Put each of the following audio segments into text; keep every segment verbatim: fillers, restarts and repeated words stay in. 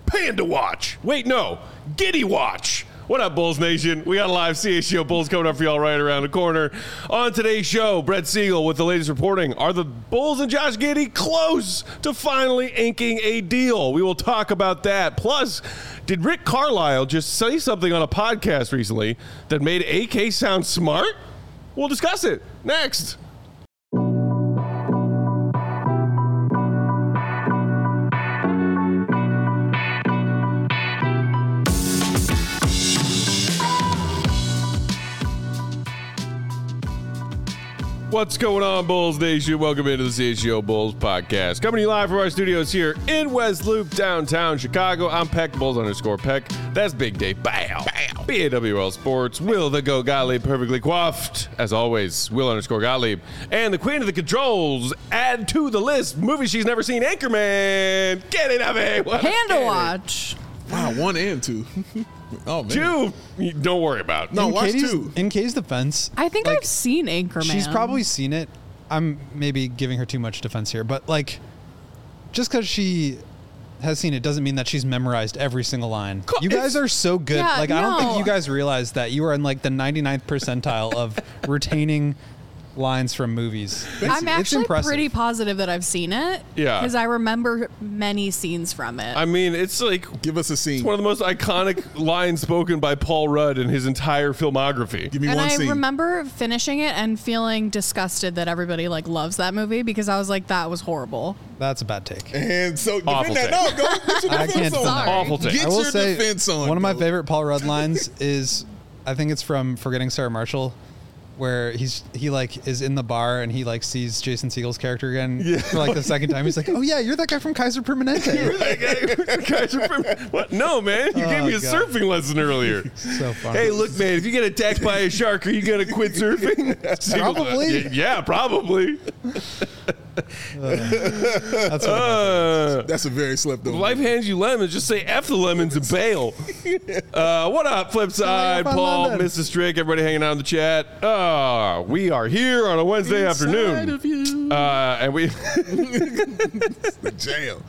Panda Watch. Wait, no, Giddy Watch. What up, Bulls Nation? We got a live C H G O Bulls coming up for y'all right around the corner. On today's show, Brett Siegel with the latest reporting. Are the Bulls and Josh Giddey close to finally inking a deal? We will talk about that. Plus, did Rick Carlisle just say something on a podcast recently that made A K sound smart? We'll discuss it next. What's going on, Bulls Nation? Welcome into the C H G O Bulls podcast. Coming to you live from our studios here in West Loop, downtown Chicago. I'm Peck, Bulls underscore Peck. That's Big Dave. Bow. Bow. B A W L Sports. Will the Go Gottlieb, perfectly coiffed. As always, Will underscore Gottlieb. And the queen of the controls, add to the list, movie she's never seen, Anchorman. Get it, Abby. Panda Watch. Wow, one and two. Oh, man. Two, don't worry about it. No, in watch Katie's, two. In Kay's defense, I think like, I've seen Anchorman. she's probably seen it. I'm maybe giving her too much defense here, but like, just because she has seen it doesn't mean that she's memorized every single line. You guys are so good. Yeah, like, I don't think no. you guys realize that you are in like the ninety-ninth percentile of retaining lines from movies. It's, I'm it's actually impressive. pretty positive that I've seen it. Yeah. Because I remember many scenes from it. I mean, it's like Give us a scene. it's one of the most iconic lines spoken by Paul Rudd in his entire filmography. Give me and one I scene. remember finishing it and feeling disgusted that everybody like loves that movie because I was like, that was horrible. That's a bad take. And so Awful defend that. take. No, go get your I defense can't on. defend that. Awful take. Get I will your say defense on. one of my bro. favorite Paul Rudd lines is, I think it's from Forgetting Sarah Marshall, where he's he like is in the bar and he like sees Jason Segel's character again Yeah. for like the second time. He's like, "Oh yeah, you're that guy from Kaiser Permanente." That guy- guys are from- what? No, man. You Oh, gave me a God. surfing lesson earlier. So funny. Hey, look, man. If you get attacked by a shark, are you gonna quit surfing? Probably. Yeah, probably. That's what Uh, That's a very slept over. life hands you lemons. Just say F the lemons and bail. Uh, what up, Flip Side? Up on Paul, London. Missus Strick, everybody hanging out in the chat. Uh, we are here on a Wednesday Inside afternoon. of you. Uh, and we The jam.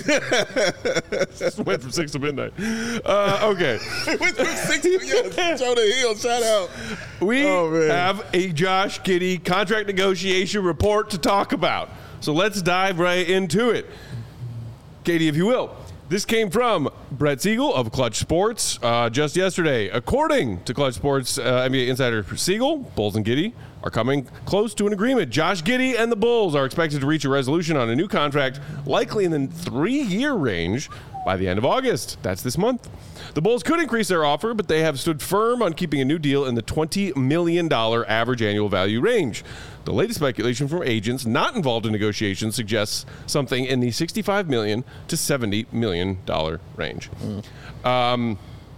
just went from six to midnight. Uh, okay. Went from six to yes, Jonah Hill. Shout out. We Oh, man. have a Josh Giddey contract negotiation report to talk about. So let's dive right into it. Katie, if you will. This came from Brett Siegel of Clutch Sports uh, just yesterday. According to Clutch Sports uh, N B A insider Siegel, Bulls and Giddey are coming close to an agreement. Josh Giddey and the Bulls are expected to reach a resolution on a new contract, likely in the three-year range, by the end of August. That's this month. The Bulls could increase their offer, but they have stood firm on keeping a new deal in the twenty million dollars average annual value range. The latest speculation from agents not involved in negotiations suggests something in the sixty-five million dollars to seventy million dollars range. Mm. Um,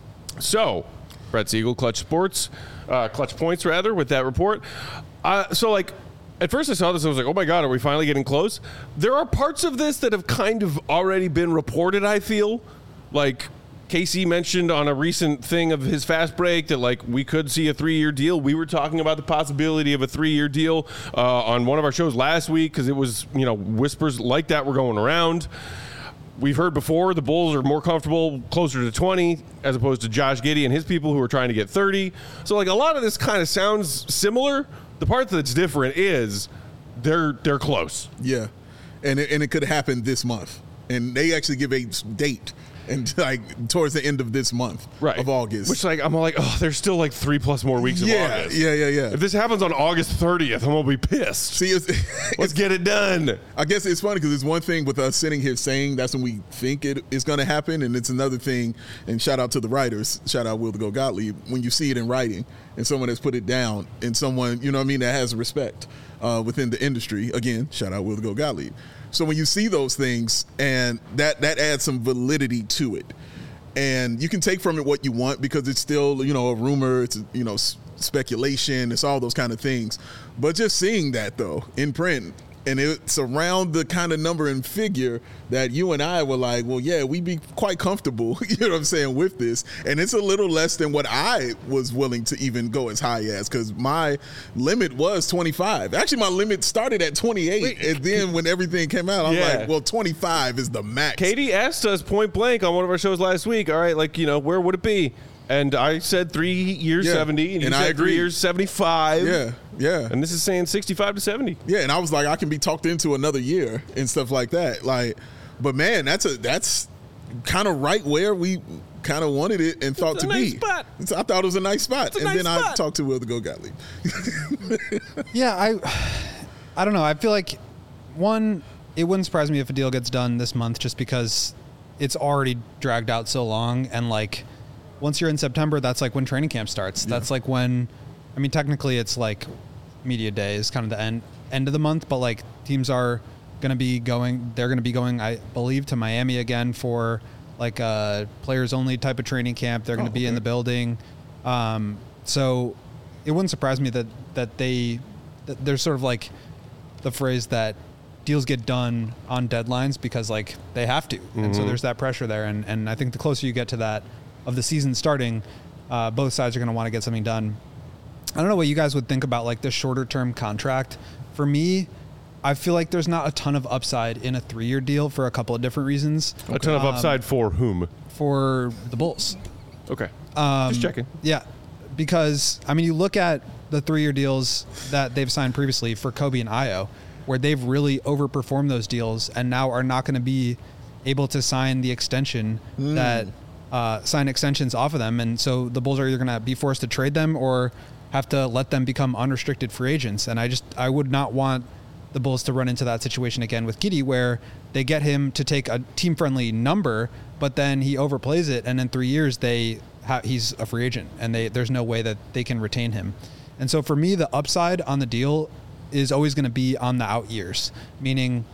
so, Brett Siegel, Clutch Sports, uh, Clutch Points, rather, with that report. Uh, so, like, at first I saw this, I was like, oh my God, are we finally getting close? There are parts of this that have kind of already been reported, I feel. Like, K C mentioned on a recent thing of his fast break that, like, we could see a three-year deal. We were talking about the possibility of a three-year deal uh, on one of our shows last week because it was, you know, whispers like that were going around. We've heard before the Bulls are more comfortable closer to twenty as opposed to Josh Giddey and his people who are trying to get thirty. So, like, a lot of this kind of sounds similar. The part that's different is they're they're close. Yeah, and it, and it could happen this month, and they actually give a date, and like towards the end of this month, Right. of August. Which, like, I'm like, oh, there's still like three plus more weeks of yeah, August. yeah, yeah, yeah. If this happens on August thirtieth, I'm gonna be pissed. See, it's, Let's get it done. I guess it's funny because it's one thing with us sitting here saying that's when we think it is going to happen, and it's another thing. And shout out to the writers, shout out Will the Go Gottlieb, when you see it in writing and someone has put it down, and someone, you know what I mean, that has respect uh, within the industry. Again, shout out Will the Go Gottlieb. So when you see those things, and that that adds some validity to it, and you can take from it what you want because it's still, you know, a rumor, it's you know s- speculation, it's all those kind of things. But just seeing that though in print, And it's around the kind of number and figure that you and I were like, well, yeah, we'd be quite comfortable, you know what I'm saying, with this. And it's a little less than what I was willing to even go as high as, because my limit was twenty-five. Actually, my limit started at twenty-eight. Wait, and then when everything came out, I'm yeah. like, well, twenty-five is the max. Katie asked us point blank on one of our shows last week, all right, like, you know, where would it be? And I said three years, yeah. seventy, and you and said I agree. three years, seventy-five. Yeah, yeah. And this is saying sixty-five to seventy. Yeah, and I was like, I can be talked into another year and stuff like that. Like, but man, that's a that's kind of right where we kind of wanted it and thought it's a to nice be. Spot. It's, I thought it was a nice spot, it's a and nice then spot. I talked to Will to go Gottlieb. yeah, I, I don't know. I feel like one, it wouldn't surprise me if a deal gets done this month, just because it's already dragged out so long, and like. Once you're in September, that's like when training camp starts. Yeah. That's like when, I mean, technically it's like media day is kind of the end end of the month, but like teams are going to be going, they're going to be going, I believe, to Miami again for like a players only type of training camp. They're going to oh, be okay. in the building. Um, so it wouldn't surprise me that, that they, that there's sort of like the phrase that deals get done on deadlines because like they have to. Mm-hmm. And so there's that pressure there. And, and I think the closer you get to that, of the season starting, uh, both sides are going to want to get something done. I don't know what you guys would think about like the shorter term contract. For me, I feel like there's not a ton of upside in a three-year deal for a couple of different reasons. A ton of upside um, for whom? For the Bulls. Okay. Um, Just checking. Yeah, because I mean, you look at the three-year deals that they've signed previously for Kobe and Ayo, where they've really overperformed those deals and now are not going to be able to sign the extension mm. that. Uh, sign extensions off of them, and so the Bulls are either going to be forced to trade them or have to let them become unrestricted free agents. And I just I would not want the Bulls to run into that situation again with Giddey, where they get him to take a team-friendly number, but then he overplays it, and in three years they ha- he's a free agent, and they there's no way that they can retain him. And so for me, the upside on the deal is always going to be on the out years, meaning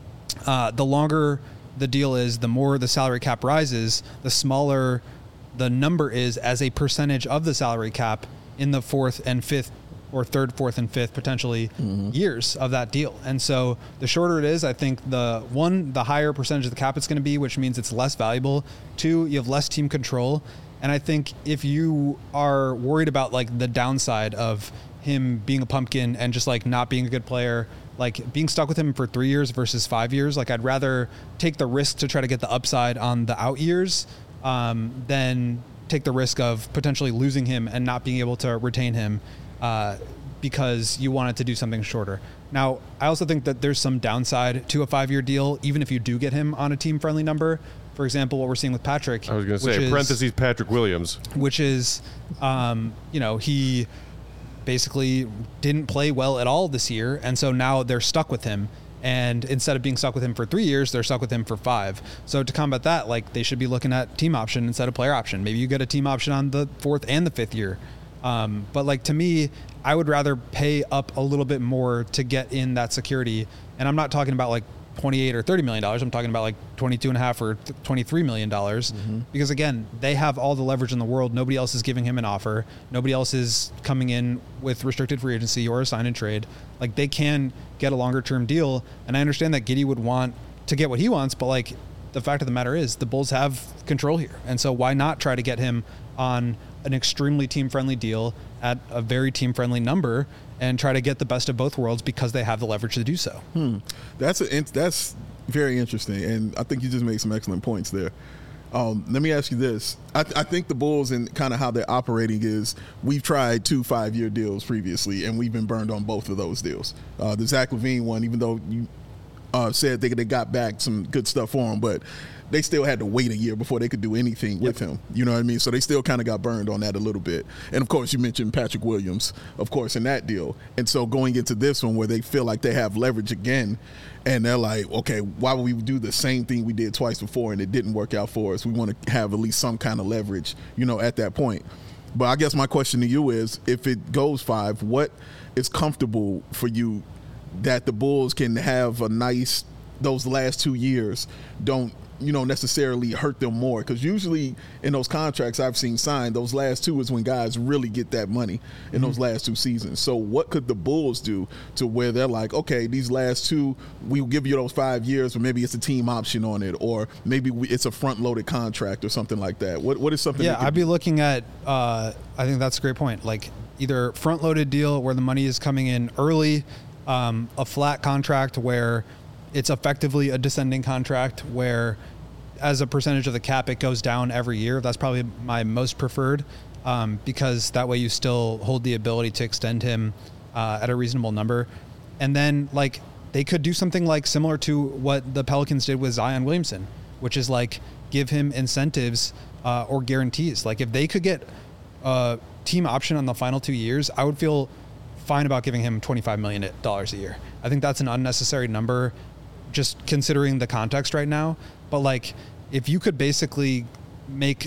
uh, the longer the deal is, the more the salary cap rises, the smaller the number is as a percentage of the salary cap in the fourth and fifth or third, fourth, and fifth potentially mm-hmm. years of that deal. And so the shorter it is, I think the one, the higher percentage of the cap it's going to be, which means it's less valuable. Two, you have less team control. And I think if you are worried about like the downside of him being a pumpkin and just like not being a good player, like being stuck with him for three years versus five years, like I'd rather take the risk to try to get the upside on the out years um, than take the risk of potentially losing him and not being able to retain him uh, because you wanted to do something shorter. Now, I also think that there's some downside to a five-year deal, even if you do get him on a team-friendly number. For example, what we're seeing with Patrick. I was going to say, is, parentheses, Patrick Williams. Which is, um, you know, he basically didn't play well at all this year, and so now they're stuck with him. And instead of being stuck with him for three years, they're stuck with him for five. So to combat that, like they should be looking at team option instead of player option. Maybe you get a team option on the fourth and the fifth year. Um, but like to me, I would rather pay up a little bit more to get in that security. And I'm not talking about like twenty-eight or thirty million dollars. I'm talking about like twenty-two and a half or twenty-three million dollars. Mm-hmm. Because again, they have all the leverage in the world. Nobody else is giving him an offer. Nobody else is coming in with restricted free agency or a sign and trade. Like they can get a longer term deal. And I understand that Giddey would want to get what he wants, but like the fact of the matter is the Bulls have control here. And so why not try to get him on an extremely team friendly deal at a very team friendly number and try to get the best of both worlds because they have the leverage to do so. Hmm. That's a, that's very interesting. And I think you just made some excellent points there. Um, let me ask you this. I, th- I think the Bulls and kind of how they're operating is we've tried two five-year deals previously, and we've been burned on both of those deals. Uh, the Zach LaVine one, even though you uh, said they, they got back some good stuff for him, but they still had to wait a year before they could do anything yep. with him. You know what I mean? So they still kind of got burned on that a little bit. And, of course, you mentioned Patrick Williams, of course, in that deal. And so going into this one where they feel like they have leverage again, and they're like, okay, why would we do the same thing we did twice before and it didn't work out for us? We want to have at least some kind of leverage, you know, at that point. But I guess my question to you is, if it goes five, what is comfortable for you that the Bulls can have a nice, those last two years don't you know, necessarily hurt them more. Because usually in those contracts I've seen signed, those last two is when guys really get that money in mm-hmm. those last two seasons. So what could the Bulls do to where they're like, okay, these last two, we'll give you those five years, but maybe it's a team option on it, or maybe we, it's a front-loaded contract or something like that. What What is something? Yeah, I'd be looking at, uh, I think that's a great point, like either front-loaded deal where the money is coming in early, um, a flat contract where it's effectively a descending contract where as a percentage of the cap, it goes down every year. That's probably my most preferred um, because that way you still hold the ability to extend him uh, at a reasonable number. And then like they could do something like similar to what the Pelicans did with Zion Williamson, which is like give him incentives uh, or guarantees. Like if they could get a team option on the final two years, I would feel fine about giving him twenty-five million dollars a year. I think that's an unnecessary number just considering the context right now. But like, if you could basically make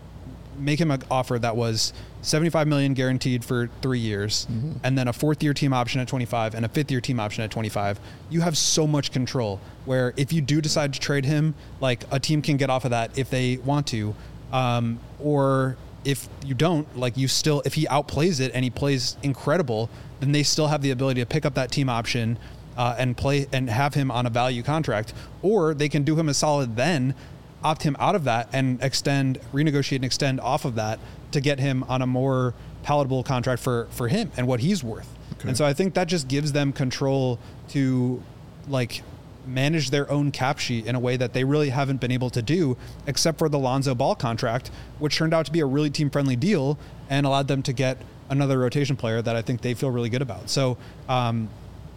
make him an offer that was seventy-five million dollars guaranteed for three years, mm-hmm. and then a fourth year team option at twenty-five and a fifth year team option at twenty-five, you have so much control where if you do decide to trade him, like a team can get off of that if they want to, um, or if you don't, like you still, if he outplays it and he plays incredible, then they still have the ability to pick up that team option Uh, and play and have him on a value contract, or they can do him a solid then, opt him out of that and extend, renegotiate and extend off of that to get him on a more palatable contract for, for him and what he's worth. Okay. And so I think that just gives them control to like manage their own cap sheet in a way that they really haven't been able to do, except for the Lonzo Ball contract, which turned out to be a really team friendly deal and allowed them to get another rotation player that I think they feel really good about. So, um,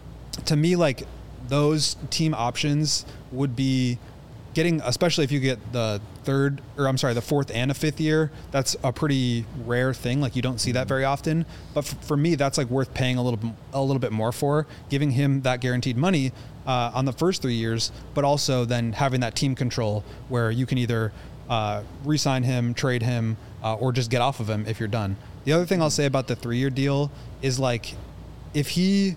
to me, like those team options would be getting, especially if you get the third, or I'm sorry, the fourth and a fifth year, that's a pretty rare thing. Like you don't see that very often. But f- for me, that's like worth paying a little, a little bit more for, giving him that guaranteed money uh, on the first three years, but also then having that team control where you can either uh, re-sign him, trade him, uh, or just get off of him if you're done. The other thing I'll say about the three-year deal is like, if he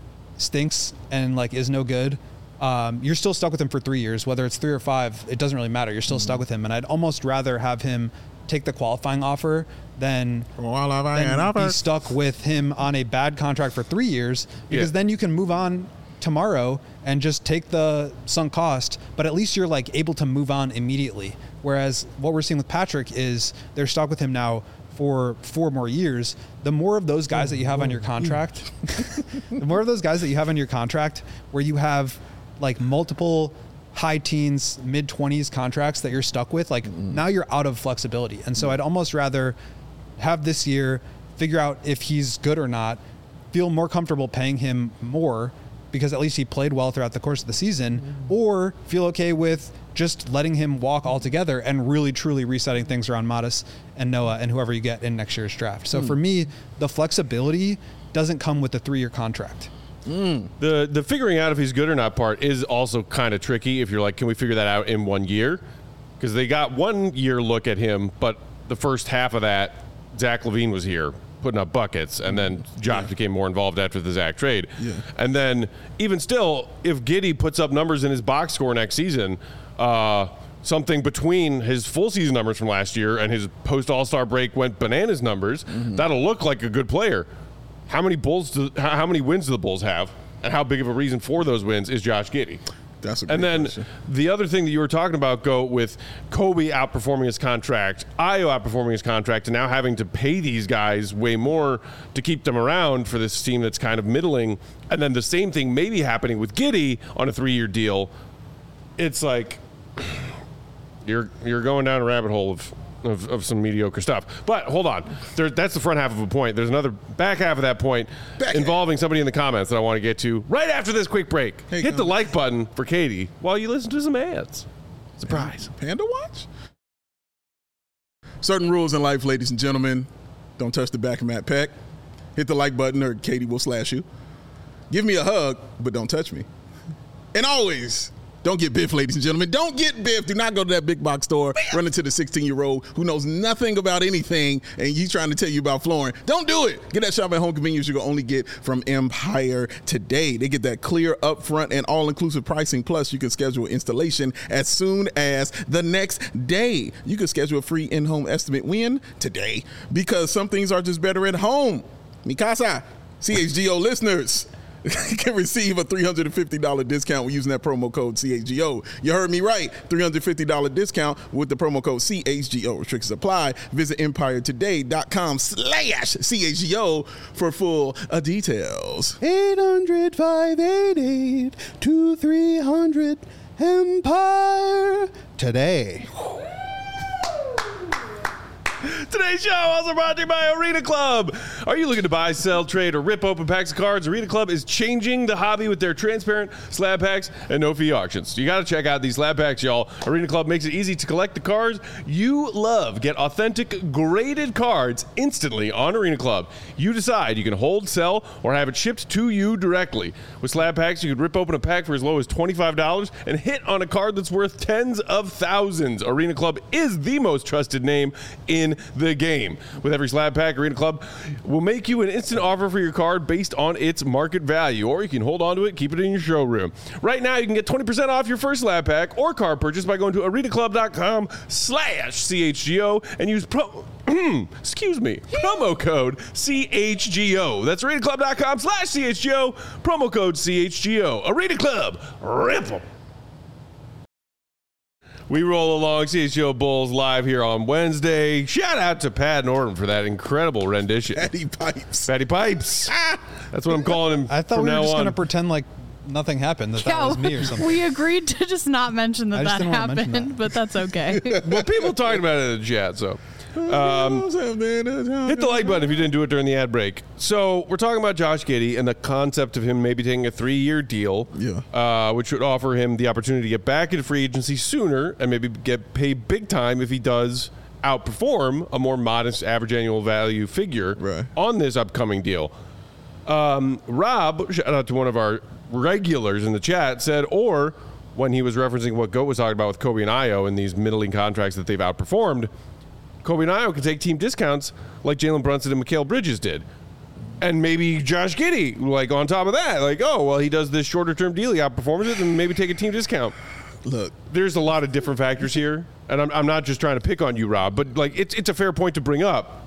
stinks and like is no good, um, you're still stuck with him for three years, whether it's three or five, it doesn't really matter. You're still mm-hmm. stuck with him. And I'd almost rather have him take the qualifying offer than, than be stuck with him on a bad contract for three years because yeah. then you can move on tomorrow and just take the sunk cost, but at least you're like able to move on immediately. Whereas what we're seeing with Patrick is they're stuck with him now for four more years. The more of those guys that you have on your contract, the more of those guys that you have on your contract where you have like multiple high teens, mid twenties contracts that you're stuck with, like mm-hmm. now you're out of flexibility. And so I'd almost rather have this year, figure out if he's good or not, feel more comfortable paying him more because at least he played well throughout the course of the season, mm-hmm. or feel okay with just letting him walk altogether and really truly resetting things around Modest and Noah and whoever you get in next year's draft. So mm. for me, the flexibility doesn't come with a three-year contract. Mm. The the figuring out if he's good or not part is also kind of tricky if you're like, can we figure that out in one year? Because they got one year look at him, but the first half of that, Zach LaVine was here putting up buckets, and then Josh yeah. became more involved after the Zach trade. Yeah. And then even still, if Giddey puts up numbers in his box score next season, uh, something between his full season numbers from last year and his post All-Star break went bananas numbers, mm-hmm. that'll look like a good player. How many Bulls? Do, how many wins do the Bulls have, and how big of a reason for those wins is Josh Giddey? That's a great and then question. The other thing that you were talking about, Go, with Kobe outperforming his contract, Ayo outperforming his contract, and now having to pay these guys way more to keep them around for this team that's kind of middling, and then the same thing maybe happening with Giddey on a three-year deal. It's like you're you're going down a rabbit hole of Of, of some mediocre stuff. But hold on. There, that's the front half of a point. There's another back half of that point back involving half. somebody in the comments that I want to get to right after this quick break. Hey, Hit the like button for Katie while you listen to some ads. Surprise. Panda Watch? Certain rules in life, ladies and gentlemen. Don't touch the back of Matt Peck. Hit the like button or Katie will slash you. Give me a hug, but don't touch me. And always Don't get Biff, ladies and gentlemen. Don't get Biff. Do not go to that big box store, run into the sixteen-year-old who knows nothing about anything, and he's trying to tell you about flooring. Don't do it. Get that shop at home convenience you can only get from Empire Today. They get that clear, upfront, and all-inclusive pricing. Plus, you can schedule installation as soon as the next day. You can schedule a free in-home estimate when? Today. Because some things are just better at home. Mikasa, C H G O listeners can receive a three hundred fifty dollars discount when using that promo code C H G O. You heard me right. three hundred fifty dollars discount with the promo code C H G O. Restrictions apply. Visit empiretoday.com slash CHGO for full uh, details. eight hundred, five eight eight, two three hundred Empire Today. Today's show also brought to you by Arena Club. Are you looking to buy, sell, trade, or rip open packs of cards? Arena Club is changing the hobby with their transparent slab packs and no-fee auctions. You got to check out these slab packs, y'all. Arena Club makes it easy to collect the cards you love. Get authentic, graded cards instantly on Arena Club. You decide. You can hold, sell, or have it shipped to you directly. With slab packs, you can rip open a pack for as low as twenty-five dollars and hit on a card that's worth tens of thousands. Arena Club is the most trusted name in the game. With every slab pack, Arena Club will make you an instant offer for your card based on its market value, or you can hold on to it, keep it in your showroom. Right now, you can get twenty percent off your first slab pack or card purchase by going to arenaclub.com slash CHGO and use pro... excuse me, promo code C H G O. That's arenaclub.com slash CHGO, promo code C H G O. Arena Club, rip 'em. We roll along C H G O Bulls live here on Wednesday. Shout out to Pat Norton for that incredible rendition. Patty Pipes. Patty Pipes. That's what I'm calling him. I thought from we were now just going to on. pretend like nothing happened, that that was me or something. We agreed to just not mention that I just that didn't wanna mention happened, that. but that's okay. Well, people talking about it in the chat, so. Um, hit the like button if you didn't do it during the ad break. So we're talking about Josh Giddey and the concept of him maybe taking a three-year deal, Yeah. uh, which would offer him the opportunity to get back into free agency sooner and maybe get paid big time if he does outperform a more modest average annual value figure Right. on this upcoming deal. Um, Rob, shout out to one of our regulars in the chat, said, or when he was referencing what Goat was talking about with Kobe and Io and these middling contracts that they've outperformed, Kobe and Io can take team discounts like Jalen Brunson and Mikal Bridges did. And maybe Josh Giddey, like on top of that, like, oh, well, he does this shorter term deal, he outperforms it, and maybe take a team discount. Look, There's a lot of different factors here, and I'm, I'm not just trying to pick on you, Rob, but like it's it's a fair point to bring up.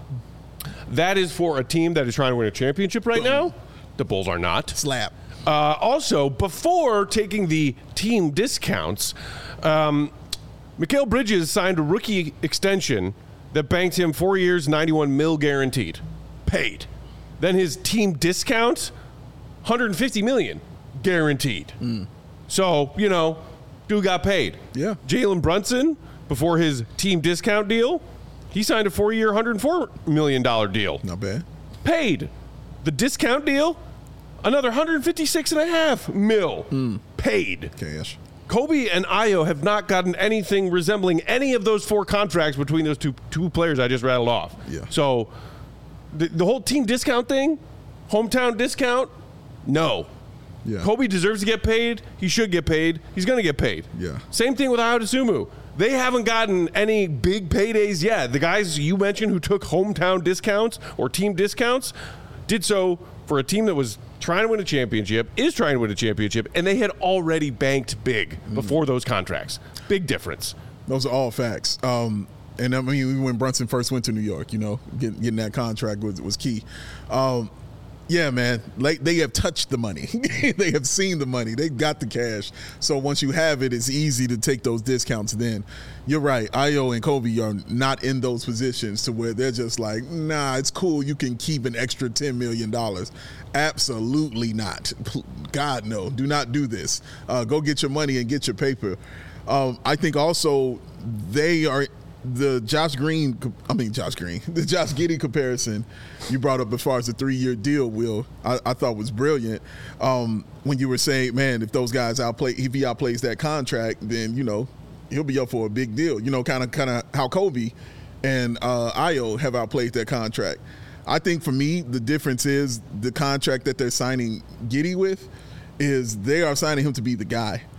That is for a team that is trying to win a championship right now. The Bulls are not. slap. Uh, also, before taking the team discounts, um, Mikal Bridges signed a rookie extension that banked him four years, ninety-one mil guaranteed, paid. Then his team discount, one hundred fifty million guaranteed. Mm. So, you know, dude got paid. Yeah. Jalen Brunson, before his team discount deal, he signed a four-year, one hundred four million dollars deal. Not bad. Paid. The discount deal, another one hundred fifty-six and a half mil Mm. paid. Cash. Kobe and Io have not gotten anything resembling any of those four contracts between those two two players I just rattled off. Yeah. So the, the whole team discount thing, hometown discount, no. Yeah. Kobe deserves to get paid. He should get paid. He's going to get paid. Yeah. Same thing with Ayo Dosunmu. They haven't gotten any big paydays yet. The guys you mentioned who took hometown discounts or team discounts did so for a team that was trying to win a championship, is trying to win a championship, and they had already banked big before those contracts. Big difference. Those are all facts. Um, and I mean, when Brunson first went to New York, you know, getting, getting that contract was, was key. Um, yeah, man, like they have touched the money. They have seen the money. They've got the cash. So once you have it, it's easy to take those discounts then. You're right. Io and Kobe are not in those positions to where they're just like, nah, it's cool. You can keep an extra ten million dollars. Absolutely not. God, no. Do not do this. Uh, go get your money and get your paper. Um, I think also they are the Josh Green, I mean Josh Green, the Josh Giddey comparison you brought up as far as the three-year deal, Will, I, I thought was brilliant. Um, when you were saying, man, if those guys outplay, if he outplays that contract, then, you know, he'll be up for a big deal. You know, kind of kind of how Kobe and uh, Io have outplayed that contract. I think for me, the difference is the contract that they're signing Giddey with is they are signing him to be the guy.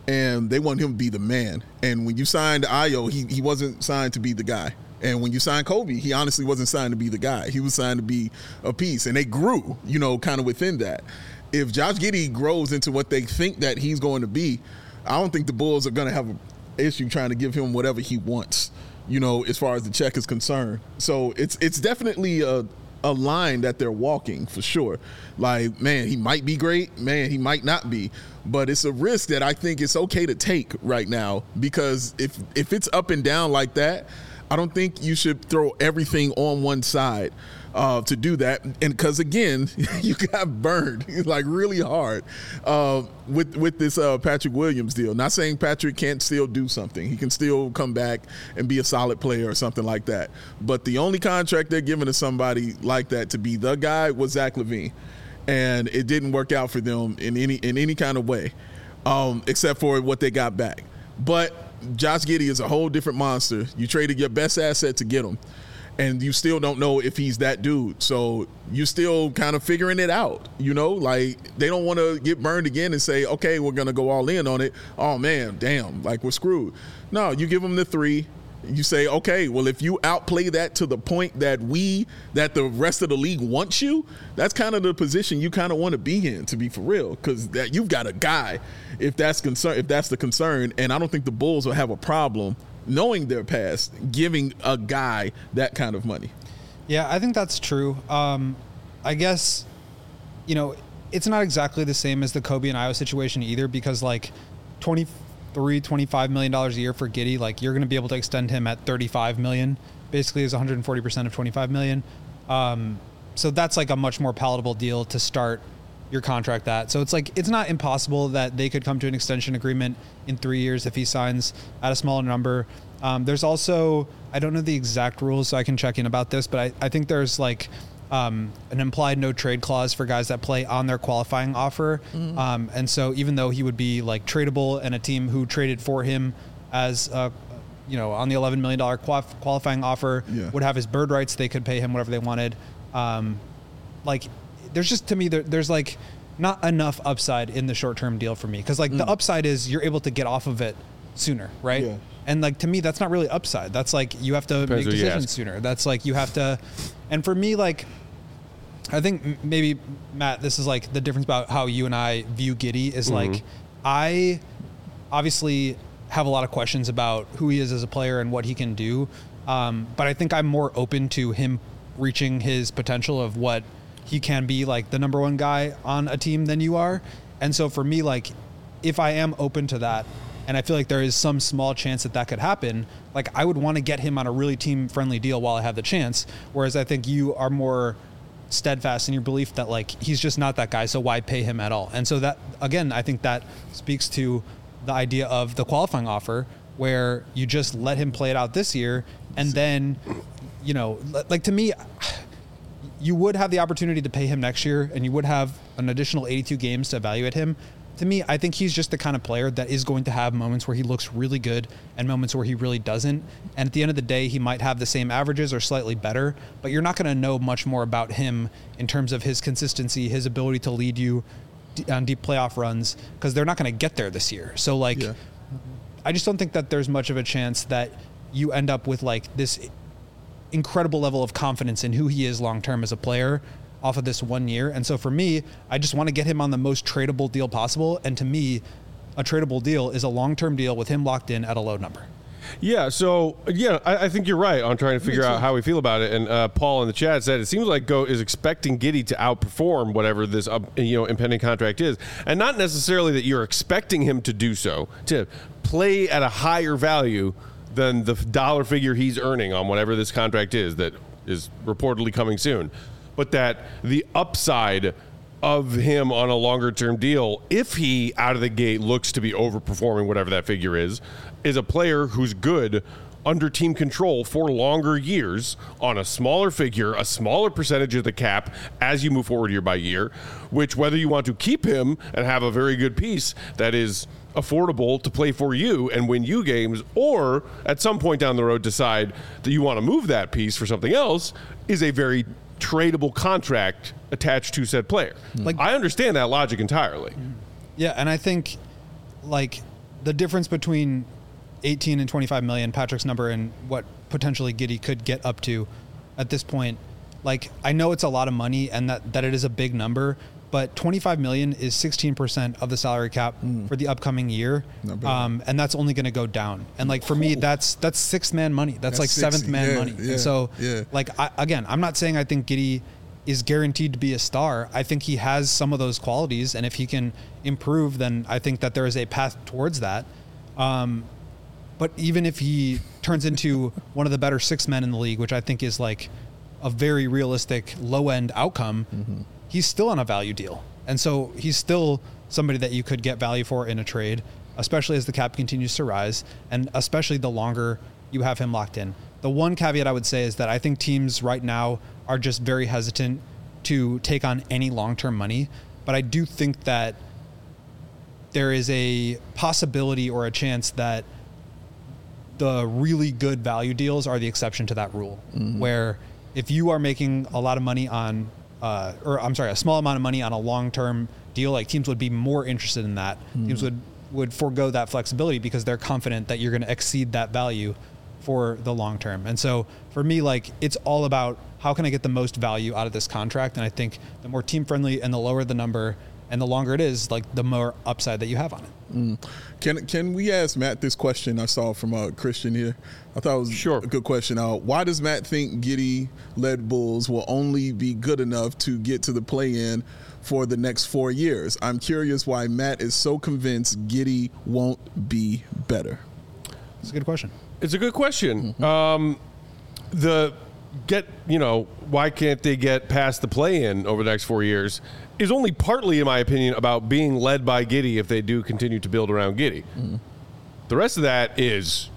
and they want him to be the man. And when you signed Ayo, he he wasn't signed to be the guy. And when you signed Kobe, he honestly wasn't signed to be the guy. He was signed to be a piece, and they grew, you know, kind of within that. If Josh Giddey grows into what they think that he's going to be, I don't think the Bulls are going to have an issue trying to give him whatever he wants, you know, as far as the check is concerned. So it's it's definitely a, a line that they're walking for sure. Like, man, he might be great. Man, he might not be. But it's a risk that I think it's okay to take right now, because if if it's up and down like that, I don't think you should throw everything on one side uh, to do that. And because, again, you got burned like really hard uh, with with this uh, Patrick Williams deal. Not saying Patrick can't still do something. He can still come back and be a solid player or something like that. But the only contract they're giving to somebody like that to be the guy was Zach LaVine. And it didn't work out for them in any in any kind of way, um, except for what they got back. But Josh Giddey is a whole different monster. You traded your best asset to get him, and you still don't know if he's that dude. So you're still kind of figuring it out, you know? Like, they don't want to get burned again and say, okay, we're going to go all in on it. Oh, man, damn, like we're screwed. No, you give them the three. You say, okay, well, if you outplay that to the point that we, that the rest of the league wants you, that's kind of the position you kind of want to be in, to be for real, because that you've got a guy, if that's concern, if that's the concern, and I don't think the Bulls will have a problem, knowing their past, giving a guy that kind of money. Yeah, I think that's true. Um, I guess, you know, it's not exactly the same as the Kobe and Ayo situation either, because like twenty. Three twenty-five million dollars a year for Giddey, like you're going to be able to extend him at thirty-five million, basically is one hundred forty percent of twenty-five million. Um, so that's like a much more palatable deal to start your contract at. So it's like, it's not impossible that they could come to an extension agreement in three years if he signs at a smaller number. Um, there's also, I don't know the exact rules, so I can check in about this, but I, I think there's like, Um, an implied no trade clause for guys that play on their qualifying offer. Mm-hmm. Um, and so even though he would be like tradable and a team who traded for him as, uh, you know, on the eleven million dollars qual- qualifying offer yeah. would have his bird rights, they could pay him whatever they wanted. Um, like there's just, to me, there, there's like not enough upside in the short-term deal for me. Cause like mm. the upside is you're able to get off of it sooner. Right. Yeah. And like, to me, that's not really upside. That's like, you have to Depends make decisions sooner. That's like, you have to, and for me, like, I think maybe, Matt, this is like the difference about how you and I view Giddey is mm-hmm. like, I obviously have a lot of questions about who he is as a player and what he can do. Um, but I think I'm more open to him reaching his potential of what he can be, like the number one guy on a team than you are. And so for me, like, if I am open to that, and I feel like there is some small chance that that could happen, like I would want to get him on a really team-friendly deal while I have the chance. Whereas I think you are more steadfast in your belief that like he's just not that guy, so why pay him at all? And so that, again, I think that speaks to the idea of the qualifying offer, where you just let him play it out this year, and then, you know, like to me, you would have the opportunity to pay him next year, and you would have an additional eighty-two games to evaluate him. To me, I think he's just the kind of player that is going to have moments where he looks really good and moments where he really doesn't. And at the end of the day, he might have the same averages or slightly better, but you're not going to know much more about him in terms of his consistency, his ability to lead you on deep playoff runs, because they're not going to get there this year. So like, yeah. I just don't think that there's much of a chance that you end up with like this incredible level of confidence in who he is long-term as a player off of this one year. And so for me, I just want to get him on the most tradable deal possible. And to me, a tradable deal is a long-term deal with him locked in at a low number. Yeah, so, yeah, I, I think you're right on trying to figure out how we feel about it. And uh, Paul in the chat said it seems like Go is expecting Giddey to outperform whatever this uh, you know impending contract is. And not necessarily that you're expecting him to do so, to play at a higher value than the dollar figure he's earning on whatever this contract is that is reportedly coming soon. But that the upside of him on a longer term deal, if he out of the gate looks to be overperforming whatever that figure is, is a player who's good under team control for longer years on a smaller figure, a smaller percentage of the cap as you move forward year by year, which whether you want to keep him and have a very good piece that is affordable to play for you and win you games, or at some point down the road decide that you want to move that piece for something else, is a very tradable contract attached to said player. Like, I understand that logic entirely. Yeah, and I think like the difference between eighteen and twenty-five million, Patrick's number, and what potentially Giddey could get up to at this point, like, I know it's a lot of money and that, that it is a big number, but twenty-five million is sixteen percent of the salary cap mm. for the upcoming year. Um, and that's only going to go down. And like, for me, that's, that's sixth man money. That's, that's like sixty, seventh man yeah, money. Yeah, and so yeah. like, I, again, I'm not saying I think Giddey is guaranteed to be a star. I think he has some of those qualities. And if he can improve, then I think that there is a path towards that. Um, but even if he turns into one of the better six men in the league, which I think is like a very realistic low end outcome, mm-hmm. he's still on a value deal. And so he's still somebody that you could get value for in a trade, especially as the cap continues to rise, and especially the longer you have him locked in. The one caveat I would say is that I think teams right now are just very hesitant to take on any long-term money. But I do think that there is a possibility or a chance that the really good value deals are the exception to that rule, mm-hmm. where if you are making a lot of money on, uh, or I'm sorry, a small amount of money on a long-term deal, like teams would be more interested in that. Mm-hmm. Teams would, would forego that flexibility because they're confident that you're going to exceed that value for the long term. And so for me, like, it's all about how can I get the most value out of this contract? And I think the more team friendly and the lower the number and the longer it is, like, the more upside that you have on it. Mm. Can can we ask Matt this question I saw from uh, Christian here? I thought it was sure. a good question. Uh, why does Matt think Giddey-led Bulls will only be good enough to get to the play-in for the next four years? I'm curious why Matt is so convinced Giddey won't be better. It's a good question. It's a good question. Mm-hmm. Um, the get, you know, why can't they get past the play-in over the next four years is only partly, in my opinion, about being led by Giddey if they do continue to build around Giddey. Mm-hmm. The rest of that is,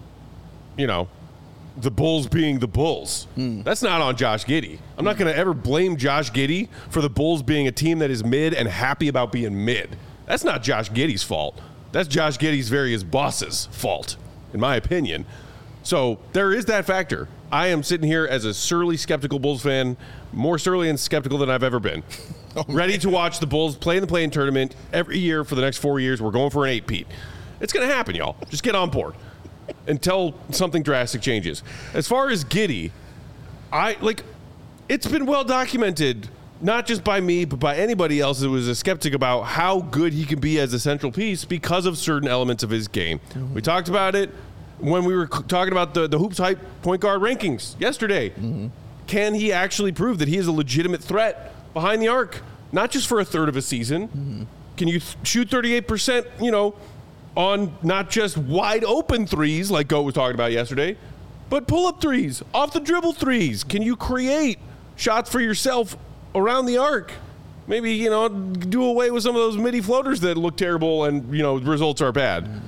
you know, the Bulls being the Bulls. Mm. That's not on Josh Giddey. I'm mm. not going to ever blame Josh Giddey for the Bulls being a team that is mid and happy about being mid. That's not Josh Giddey's fault. That's Josh Giddey's various bosses' fault, in my opinion. So there is that factor. I am sitting here as a surly, skeptical Bulls fan, more surly and skeptical than I've ever been. Oh, ready to watch the Bulls play in the play-in tournament every year for the next four years. We're going for an eight-peat. It's going to happen, y'all. Just get on board until something drastic changes. As far as Giddey, I like. It's been well documented, not just by me, but by anybody else who was a skeptic about how good he can be as a central piece because of certain elements of his game. Mm-hmm. We talked about it when we were talking about the, the Hoops Hype point guard rankings yesterday. Mm-hmm. Can he actually prove that he is a legitimate threat behind the arc, not just for a third of a season? Mm-hmm. Can you th- shoot thirty-eight percent, you know, on not just wide open threes like Goat was talking about yesterday, but pull-up threes, off the dribble threes? Can you create shots for yourself around the arc? Maybe, you know, do away with some of those midi floaters that look terrible and, you know, results are bad. Mm-hmm.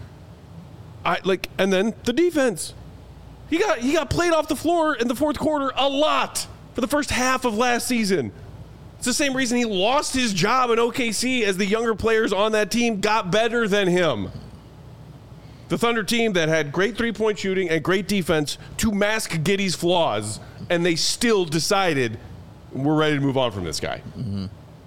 I like, and then the defense. He got he got played off the floor in the fourth quarter a lot for the first half of last season. It's the same reason he lost his job in O K C, as the younger players on that team got better than him. The Thunder team that had great three-point shooting and great defense to mask Giddey's flaws, and they still decided we're ready to move on from this guy. Mm-hmm.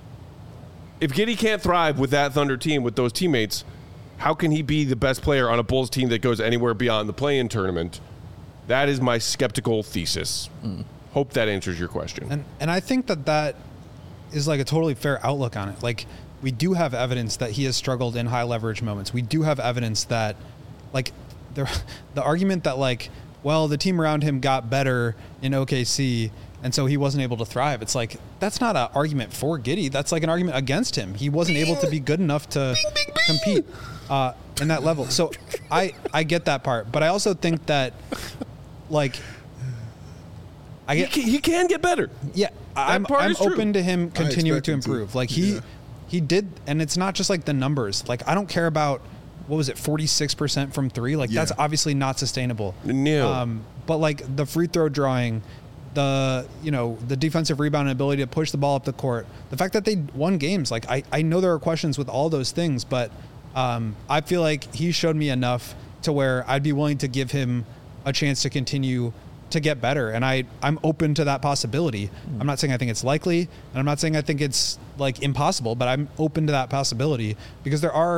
If Giddey can't thrive with that Thunder team, with those teammates, how can he be the best player on a Bulls team that goes anywhere beyond the play-in tournament? That is my skeptical thesis. Mm. Hope that answers your question. And and I think that that is like a totally fair outlook on it. Like, we do have evidence that he has struggled in high leverage moments. We do have evidence that, like, the the argument that, like, well, the team around him got better in O K C and so he wasn't able to thrive. It's like, that's not an argument for Giddey. That's like an argument against him. He wasn't able to be good enough to bing, bing, bing. compete uh, in that level. So I, I get that part, but I also think that, like, I get, he, can, he can get better. Yeah, that I'm, I'm open to him continuing to improve. To. Like he, yeah. he did, and it's not just like the numbers. Like, I don't care about, what was it, forty-six percent from three. Like yeah. that's obviously not sustainable. No. Um, but like the free throw drawing, the, you know, the defensive rebound and ability to push the ball up the court, the fact that they won games. Like I, I know there are questions with all those things, but um, I feel like he showed me enough to where I'd be willing to give him a chance to continue to get better. And I, I'm open to that possibility. Mm. I'm not saying I think it's likely, and I'm not saying I think it's like impossible, but I'm open to that possibility because there are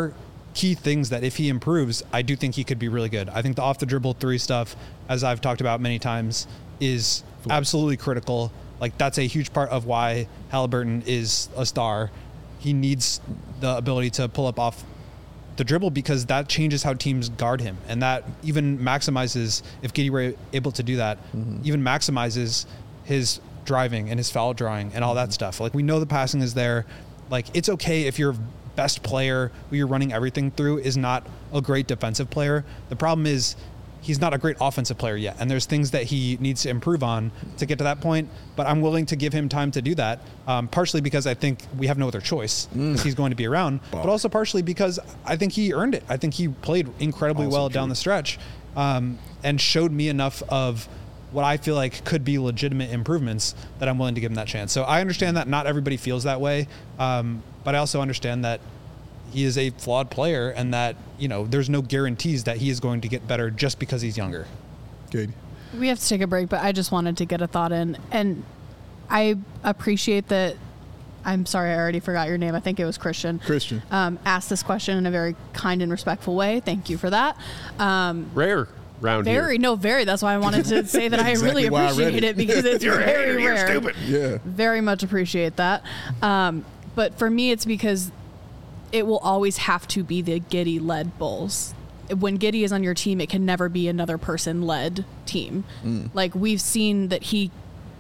key things that if he improves, I do think he could be really good. I think the off the dribble three stuff, as I've talked about many times, is absolutely critical. Like that's a huge part of why Halliburton is a star. He needs the ability to pull up off the dribble because that changes how teams guard him. And that even maximizes, if Giddey were able to do that, mm-hmm. even maximizes his driving and his foul drawing and all that stuff. Like we know the passing is there. Like it's okay if your best player who you're running everything through is not a great defensive player. The problem is he's not a great offensive player yet. And there's things that he needs to improve on to get to that point. But I'm willing to give him time to do that. Um, partially because I think we have no other choice because mm. he's going to be around, Bob. But also partially because I think he earned it. I think he played incredibly also well true. down the stretch um, and showed me enough of what I feel like could be legitimate improvements that I'm willing to give him that chance. So I understand that not everybody feels that way. Um, but I also understand that he is a flawed player and that, you know, there's no guarantees that he is going to get better just because he's younger. Good. We have to take a break, but I just wanted to get a thought in. And I appreciate that. I'm sorry, I already forgot your name. I think it was Christian. Christian. Um, asked this question in a very kind and respectful way. Thank you for that. Um, Rare. Round very here. no very that's why I wanted to say that exactly I really appreciate it. it because it's you're very hater, rare. You're stupid. Yeah, very much appreciate that. Um, but for me, it's because it will always have to be the Giddey led Bulls. When Giddey is on your team, it can never be another person led team. Mm. Like we've seen that he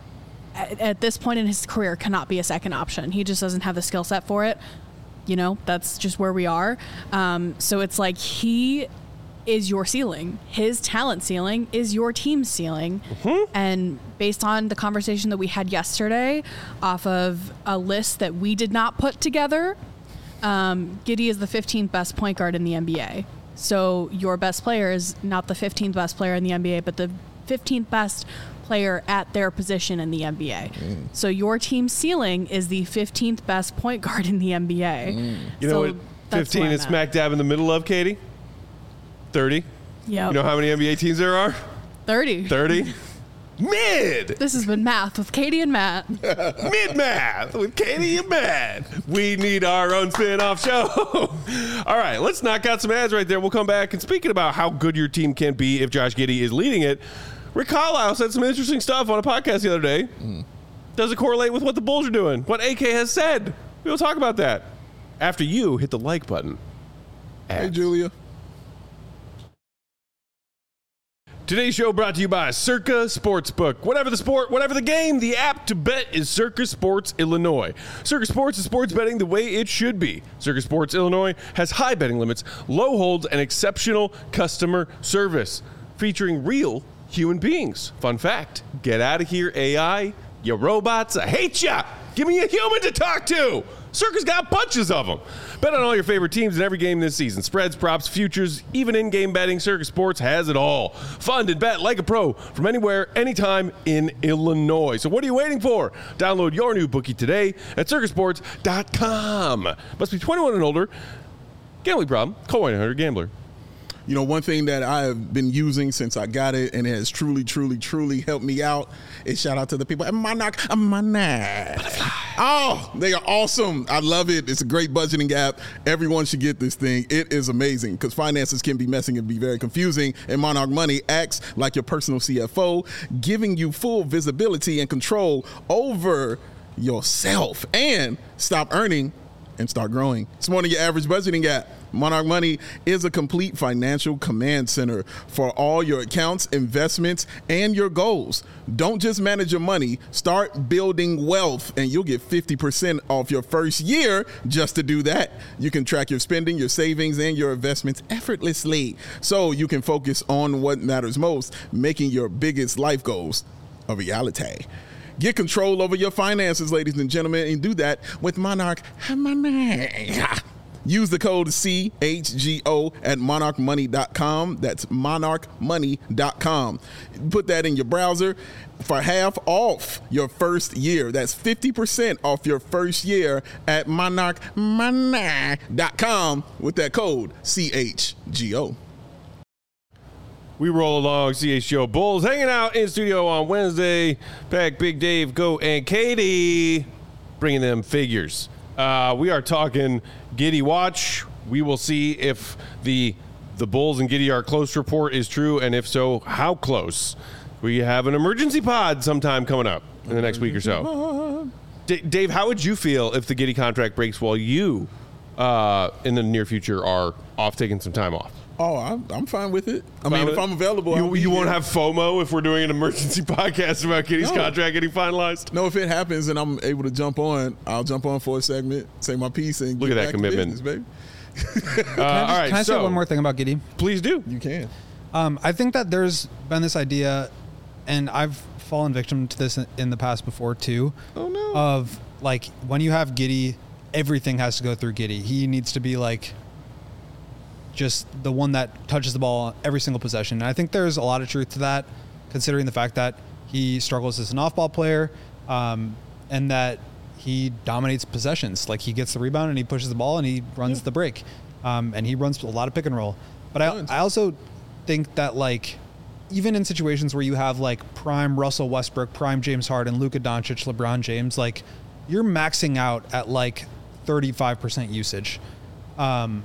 at, at this point in his career cannot be a second option. He just doesn't have the skill set for it. You know, that's just where we are. Um, so it's like he is your ceiling. His talent ceiling is your team's ceiling. Mm-hmm. And based on the conversation that we had yesterday off of a list that we did not put together, um, Giddey is the fifteenth best point guard in the N B A. So your best player is not the fifteenth best player in the N B A, but the fifteenth best player at their position in the N B A. Mm. So your team's ceiling is the fifteenth best point guard in the N B A. Mm. You know so what fifteen is smack dab in the middle of, Katie? thirty. Yeah. You know how many N B A teams there are? thirty. thirty. Mid. This has been Math with Katie and Matt. Mid Math with Katie and Matt. We need our own spin-off show. All right, let's knock out some ads right there. We'll come back. And speaking about how good your team can be if Josh Giddey is leading it, Rick Carlisle said some interesting stuff on a podcast the other day. Mm. Does it correlate with what the Bulls are doing? What A K has said? We'll talk about that after you hit the like button. Ads. Hey, Julia. Today's show brought to you by Circa Sportsbook. Whatever the sport, whatever the game, the app to bet is Circa Sports Illinois. Circa Sports is sports betting the way it should be. Circa Sports Illinois has high betting limits, low holds, and exceptional customer service, featuring real human beings. Fun fact, get out of here, A I. You robots, I hate ya. Give me a human to talk to. Circa's got bunches of them. Bet on all your favorite teams in every game this season. Spreads, props, futures, even in-game betting. Circa Sports has it all. Fund and bet like a pro from anywhere, anytime in Illinois. So what are you waiting for? Download your new bookie today at circa sports dot com. Must be twenty-one and older. Gambling problem? Call one eight hundred gambler. You know, one thing that I have been using since I got it and it has truly, truly, truly helped me out is shout out to the people at Monarch Money. Oh, they are awesome. I love it. It's a great budgeting app. Everyone should get this thing. It is amazing because finances can be messy and be very confusing. And Monarch Money acts like your personal C F O, giving you full visibility and control over yourself and stop earning and start growing. It's more than your average budgeting app. Monarch Money is a complete financial command center for all your accounts, investments, and your goals. Don't just manage your money, start building wealth, and you'll get fifty percent off your first year just to do that. You can track your spending, your savings, and your investments effortlessly so you can focus on what matters most, making your biggest life goals a reality. Get control over your finances, ladies and gentlemen, and do that with Monarch Money. Use the code C H G O at monarch money dot com. That's monarch money dot com. Put that in your browser for half off your first year. That's fifty percent off your first year at monarch money dot com with that code C H G O. We roll along, C H G O Bulls hanging out in studio on Wednesday. Pack, Big Dave, Go, and Katie bringing them figures. Uh, we are talking Giddey Watch. we will see if the the Bulls and Giddey are close report is true, and if so, how close. We have an emergency pod sometime coming up in the next week or so. D- Dave, how would you feel if the Giddey contract breaks while you, uh, in the near future, are off taking some time off? Oh, I'm, I'm fine with it. I Fine mean, with if it? I'm available, I'll You, be you won't here. have FOMO if we're doing an emergency podcast about Giddey's No. contract getting finalized? No, if it happens and I'm able to jump on, I'll jump on for a segment, say my piece, and Look get at that back to commitment. business, baby. Uh, Can I, all just- right, can I so say one more thing about Giddey? please do. You can. Um, I think that there's been this idea, and I've fallen victim to this in- in the past before too. Oh, no. Of like when you have Giddey, everything has to go through Giddey. He needs to be like just the one that touches the ball every single possession. And I think there's a lot of truth to that, considering the fact that he struggles as an off-ball player, um, and that he dominates possessions. Like he gets the rebound and he pushes the ball and he runs the break, um, and he runs a lot of pick and roll. But I, Tons. I also think that like even in situations where you have like prime Russell Westbrook, prime James Harden, Luka Doncic, LeBron James, like you're maxing out at like thirty-five percent usage. Um,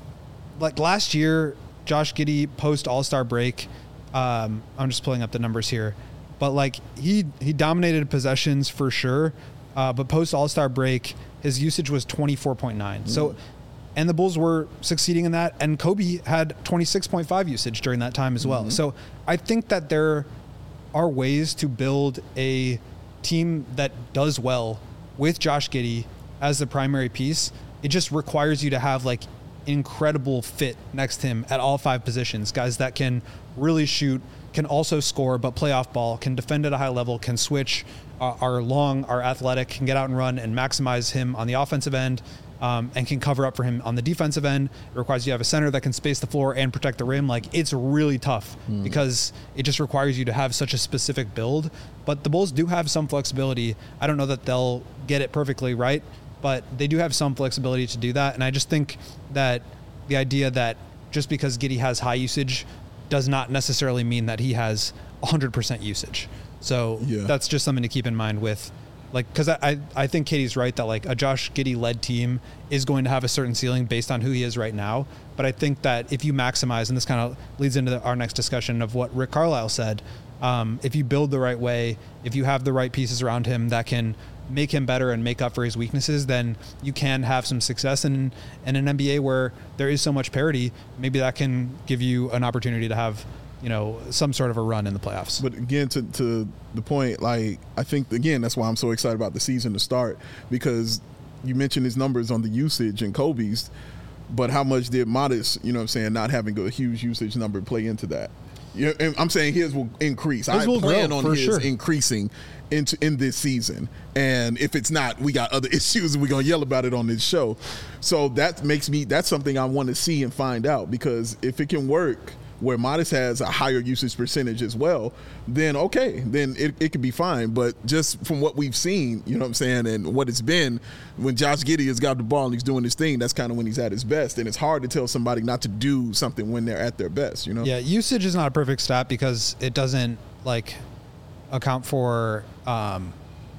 like last year, Josh Giddey post All-Star break, um, I'm just pulling up the numbers here, but like he he dominated possessions for sure, uh, but post All-Star break, his usage was twenty-four point nine. So, and the Bulls were succeeding in that, and Kobe had twenty-six point five usage during that time as well. So I think that there are ways to build a team that does well with Josh Giddey as the primary piece. It just requires you to have like incredible fit next to him at all five positions. Guys that can really shoot, can also score, but play off ball, can defend at a high level, can switch, uh, are long, are athletic, can get out and run and maximize him on the offensive end, um, and can cover up for him on the defensive end. It requires you to have a center that can space the floor and protect the rim. Like it's really tough because it just requires you to have such a specific build. But the Bulls do have some flexibility. I don't know that they'll get it perfectly right, but they do have some flexibility to do that. And I just think that the idea that just because Giddey has high usage does not necessarily mean that he has one hundred percent usage. So Yeah. that's just something to keep in mind with, like, because I, I, I think Katie's right that, like, a Josh Giddey-led team is going to have a certain ceiling based on who he is right now. But I think that if you maximize, and this kind of leads into the, our next discussion of what Rick Carlisle said, um, if you build the right way, if you have the right pieces around him that can make him better and make up for his weaknesses, then you can have some success in, in an N B A where there is so much parity. Maybe that can give you an opportunity to have, you know, some sort of a run in the playoffs. But again, to, to the point, like, I think, again, that's why I'm so excited about the season to start, because you mentioned his numbers on the usage and Kobe's, but how much did Modest, you know what I'm saying, not having a huge usage number play into that? You know, and I'm saying his will increase. His I will plan grow, on for his sure. increasing into in this season. And if it's not, we got other issues and we're going to yell about it on this show. So that makes me, that's something I want to see and find out, because if it can work where Modest has a higher usage percentage as well, then okay, then it, it could be fine. But just from what we've seen, you know what I'm saying, and what it's been, when Josh Giddey has got the ball and he's doing his thing, that's kind of when he's at his best. And it's hard to tell somebody not to do something when they're at their best, you know? Yeah, usage is not a perfect stat because it doesn't like account for. Um,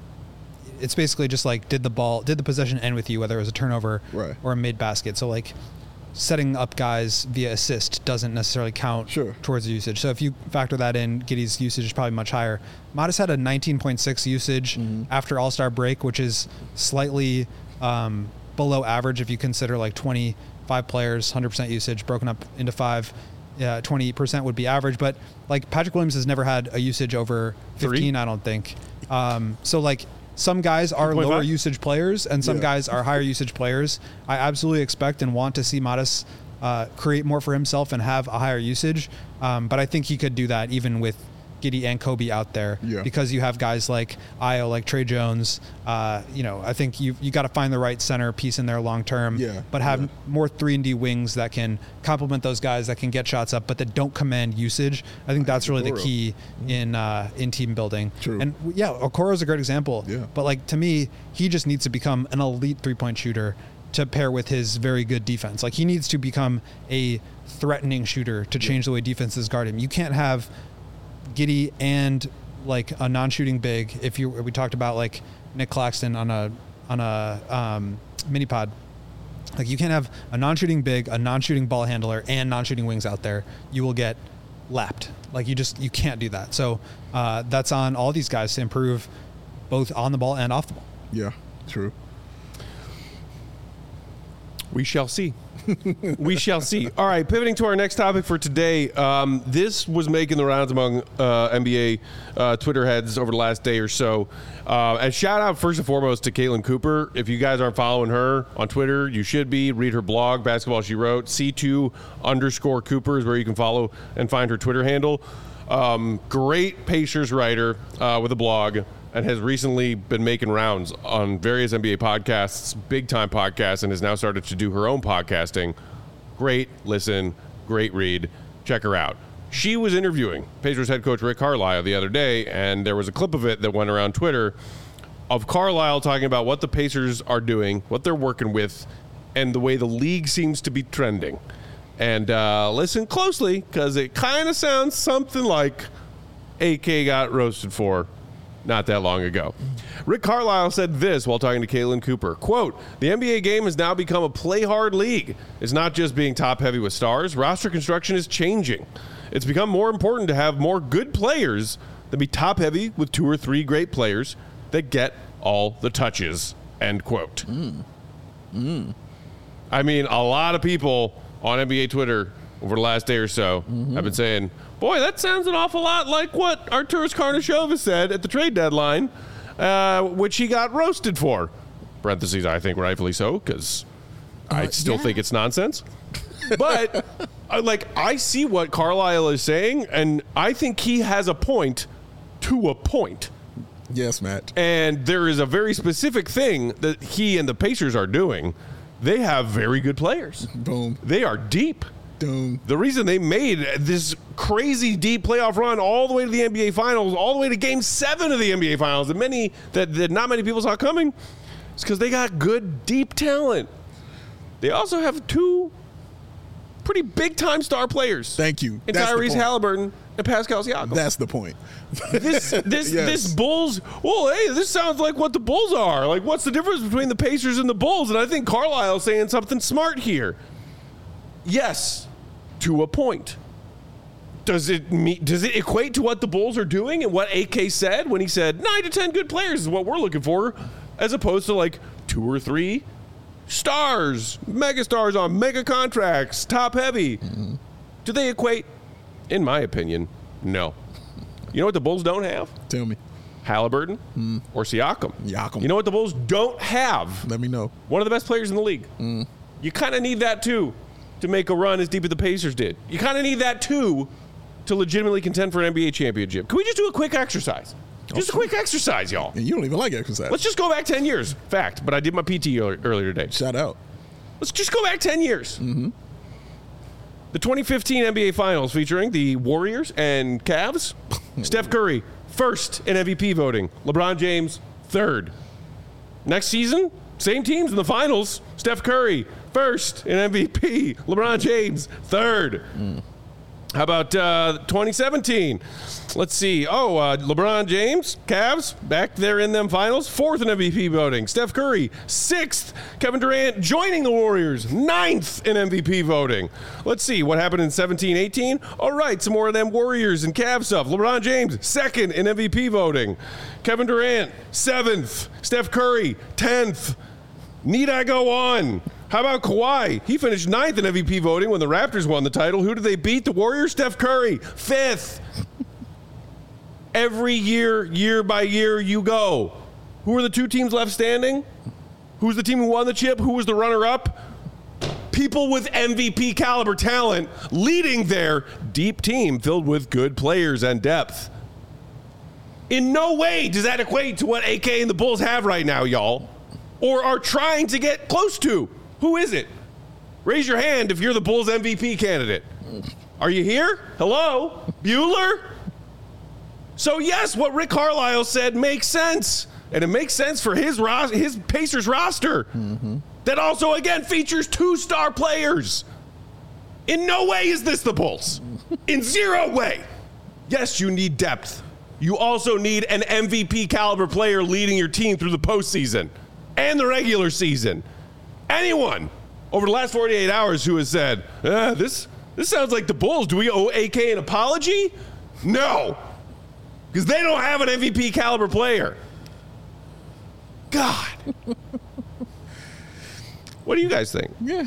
it's basically just like did the ball, did the possession end with you, whether it was a turnover Right. or a mid basket. So like setting up guys via assist doesn't necessarily count Sure. towards the usage. So if you factor that in, Giddey's usage is probably much higher. Modest had a nineteen point six usage after All-Star break, which is slightly um, below average if you consider like twenty-five players, one hundred percent usage broken up into five. Yeah, twenty percent would be average, but like Patrick Williams has never had a usage over fifteen, Three? I don't think. Um, so like some guys are two point five? lower usage players and some Yeah. guys are higher usage players. I absolutely expect and want to see Modest uh, create more for himself and have a higher usage. Um, but I think he could do that even with Giddey and Kobe out there, Yeah. because you have guys like Io, like Trey Jones. Uh, you know, I think you you got to find the right center piece in there long term. Yeah, But have yeah. more three and D wings that can complement those guys that can get shots up, but that don't command usage. I think that's really the Okoro. key in uh, in team building. True. And w- yeah, Okoro's a great example. Yeah. But like to me, he just needs to become an elite three point shooter to pair with his very good defense. Like he needs to become a threatening shooter to change the way defenses guard him. You can't have Giddey and like a non-shooting big. If you we talked about like Nick Claxton on a on a um, mini pod, Like you can't have a non-shooting big, a non-shooting ball handler, and non-shooting wings out there. You will get lapped. Like you just you can't do that. So uh, that's on all these guys to improve both on the ball and off the ball. Yeah, true. We shall see. We shall see. All right, pivoting to our next topic for today. Um, this was making the rounds among uh, N B A uh, Twitter heads over the last day or so. Uh, and shout out first and foremost to Caitlin Cooper. If you guys aren't following her on Twitter, you should be. Read her blog, Basketball She Wrote. C two underscore Cooper is where you can follow and find her Twitter handle. Um, great Pacers writer uh, with a blog, and has recently been making rounds on various N B A podcasts, big-time podcasts, and has now started to do her own podcasting. Great listen, great read. Check her out. She was interviewing Pacers head coach Rick Carlisle the other day, and there was a clip of it that went around Twitter of Carlisle talking about what the Pacers are doing, what they're working with, and the way the league seems to be trending. And uh, listen closely, because it kind of sounds something like A K got roasted for not that long ago. Rick Carlisle said this while talking to Caitlin Cooper, quote, "The N B A game has now become a play-hard league. It's not just being top-heavy with stars. Roster construction is changing. It's become more important to have more good players than be top-heavy with two or three great players that get all the touches," end quote. Mm. Mm. I mean, a lot of people on N B A Twitter over the last day or so mm-hmm. have been saying, boy, that sounds an awful lot like what Arturas Karnisovas said at the trade deadline, uh, which he got roasted for. Parentheses, I think rightfully so, because uh, I still yeah. think it's nonsense. But, uh, like, I see what Carlisle is saying, and I think he has a point to a point. Yes, Matt. And there is a very specific thing that he and the Pacers are doing. They have very good players. Boom. They are deep. Boom. The reason they made this crazy deep playoff run all the way to the N B A Finals, all the way to Game Seven of the N B A Finals, and many that, that not many people saw coming, is because they got good deep talent. They also have two pretty big time star players. Thank you. And That's Tyrese Halliburton and Pascal Siakam. That's the point. This this yes. this Bulls. Well, hey, this sounds like what the Bulls are. Like, what's the difference between the Pacers and the Bulls? And I think Carlisle's saying something smart here. Yes, to a point. Does it meet, does it equate to what the Bulls are doing and what A K said when he said nine to ten good players is what we're looking for, as opposed to like two or three stars, mega stars on mega contracts, top heavy? Mm-hmm. Do they equate? In my opinion, no. You know what the Bulls don't have? Tell me. Halliburton mm. or Siakam. Siakam. You know what the Bulls don't have? Let me know. One of the best players in the league. Mm. You kind of need that too to make a run as deep as the Pacers did. You kind of need that too to legitimately contend for an N B A championship. Can we just do a quick exercise? Just a quick exercise, y'all. And you don't even like exercise. Let's just go back ten years. Fact, but I did my P T earlier today. Shout out. Let's just go back ten years. Mm-hmm. The twenty fifteen N B A Finals featuring the Warriors and Cavs. Steph Curry, first in M V P voting. LeBron James, third. Next season, same teams in the finals. Steph Curry, first in M V P. LeBron James, third. Mm. How about uh, twenty seventeen? Let's see. Oh, uh, LeBron James, Cavs, back there in them finals, fourth in M V P voting. Steph Curry, sixth. Kevin Durant joining the Warriors, ninth in M V P voting. Let's see what happened in seventeen eighteen. All right, some more of them Warriors and Cavs stuff. LeBron James, second in M V P voting. Kevin Durant, seventh. Steph Curry, tenth. Need I go on? How about Kawhi? He finished ninth in M V P voting when the Raptors won the title. Who did they beat? The Warriors? Steph Curry, fifth. Every year, year by year, you go. Who are the two teams left standing? Who's the team who won the chip? Who was the runner-up? People with M V P caliber talent leading their deep team filled with good players and depth. In no way does that equate to what A K and the Bulls have right now, y'all, or are trying to get close to. Who is it? Raise your hand if you're the Bulls M V P candidate. Are you here? Hello? Bueller? So yes, what Rick Carlisle said makes sense. And it makes sense for his ros- his Pacers roster. Mm-hmm. That also, again, features two star players. In no way is this the Bulls. In zero way. Yes, you need depth. You also need an M V P caliber player leading your team through the postseason and the regular season. Anyone over the last forty-eight hours who has said, eh, this this sounds like the Bulls. Do we owe A K an apology? No, because they don't have an M V P caliber player. God. What do you guys think? Yeah.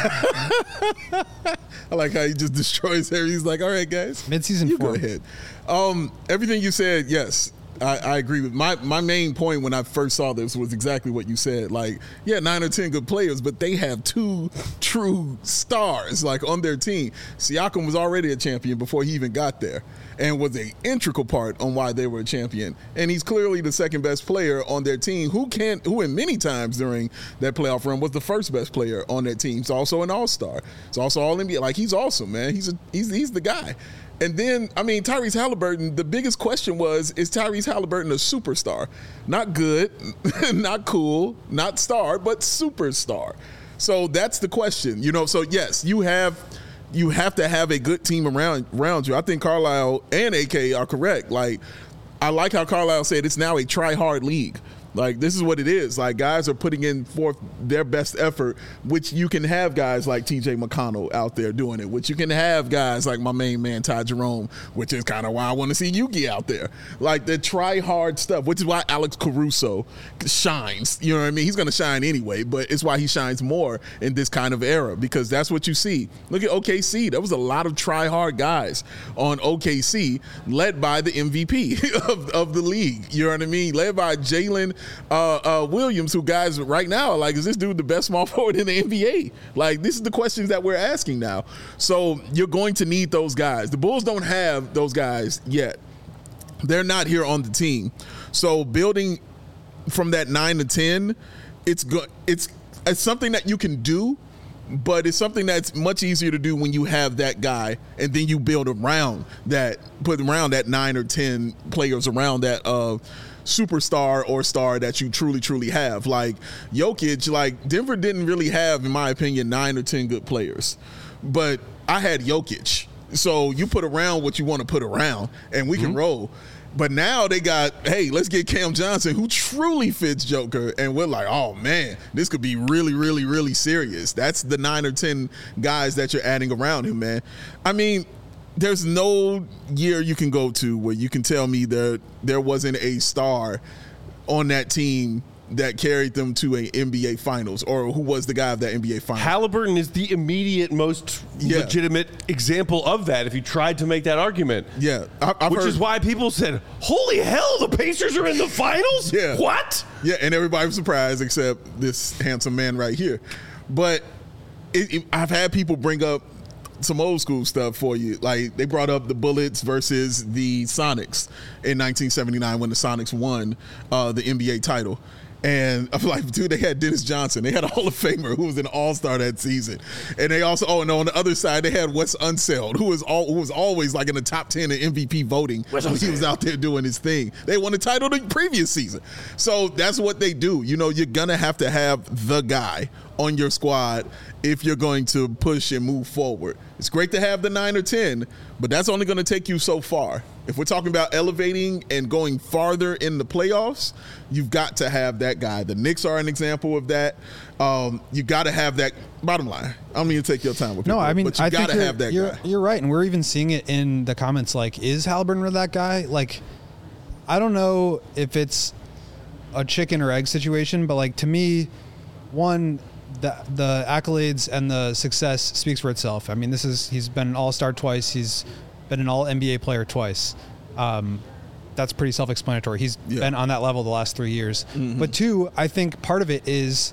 I like how he just destroys everything. He's like, all right, guys. Mid-season you form. go ahead. Um, everything you said, yes. I, I agree with my my main point when I first saw this was exactly what you said. Like, yeah, nine or ten good players, but they have two true stars like on their team. Siakam was already a champion before he even got there, and was an integral part on why they were a champion. And he's clearly the second best player on their team, who can who in many times during that playoff run was the first best player on that team. He's also an all-star. He's also all N B A. Like, he's awesome, man. He's a, he's he's the guy. And then, I mean, Tyrese Halliburton, the biggest question was, is Tyrese Halliburton a superstar? Not good, not cool, not star, but superstar. So that's the question. You know, so yes, you have you have to have a good team around around you. I think Carlisle and A K are correct. Like, I like how Carlisle said it's now a try-hard league. Like, this is what it is. Like, guys are putting in forth their best effort, which you can have guys like T J McConnell out there doing it, which you can have guys like my main man, Ty Jerome, which is kind of why I want to see Yuki out there. Like, the try-hard stuff, which is why Alex Caruso shines. You know what I mean? He's going to shine anyway, but it's why he shines more in this kind of era, because that's what you see. Look at O K C. There was a lot of try-hard guys on O K C, led by the M V P of, of the league. You know what I mean? Led by Jalen Uh, uh, Williams, who guys right now are like, is this dude the best small forward in the N B A? Like, this is the questions that we're asking now. So you're going to need those guys. The Bulls don't have those guys yet. They're not here on the team. So building from that nine to ten, it's good. It's it's something that you can do, but it's something that's much easier to do when you have that guy, and then you build around that, put around that nine or ten players around that uh, superstar or star that you truly, truly have. Like Jokic, like Denver didn't really have, in my opinion, nine or ten good players. But I had Jokic. So you put around what you want to put around, and we mm-hmm. can roll. But now they got, hey, let's get Cam Johnson, who truly fits Joker. And we're like, oh, man, this could be really, really, really serious. That's the nine or ten guys that you're adding around him, man. I mean, there's no year you can go to where you can tell me there there wasn't a star on that team that carried them to a N B A Finals, or who was the guy of that N B A Finals. Halliburton is the immediate most yeah. legitimate example of that, if you tried to make that argument. Yeah. I, I've Which heard, is why people said, holy hell, the Pacers are in the finals? Yeah. What? Yeah, and everybody was surprised except this handsome man right here. But it, it, I've had people bring up some old school stuff for you. Like, they brought up the Bullets versus the Sonics in nineteen seventy-nine when the Sonics won uh, the N B A title. And I'm like, dude, they had Dennis Johnson. They had a Hall of Famer who was an all-star that season. And they also, oh, no, on the other side, they had Wes Unseld, who was all, who was always like in the top ten in M V P voting when he was out there doing his thing. They won the title the previous season. So that's what they do. You know, you're going to have to have the guy on your squad if you're going to push and move forward. It's great to have the nine or ten, but that's only going to take you so far. If we're talking about elevating and going farther in the playoffs, you've got to have that guy. The Knicks are an example of that. Um, you got to have that. Bottom line, I don't mean to take your time with people, no, I mean, but you I got to have that you're, guy. You're right, and we're even seeing it in the comments. Like, is Halliburton that guy? Like, I don't know if it's a chicken or egg situation, but like, to me, one, the the accolades and the success speaks for itself. I mean, this is he's been an all-star twice. He's been an all N B A player twice. Um, that's pretty self-explanatory. He's yeah. been on that level the last three years. Mm-hmm. But two, I think part of it is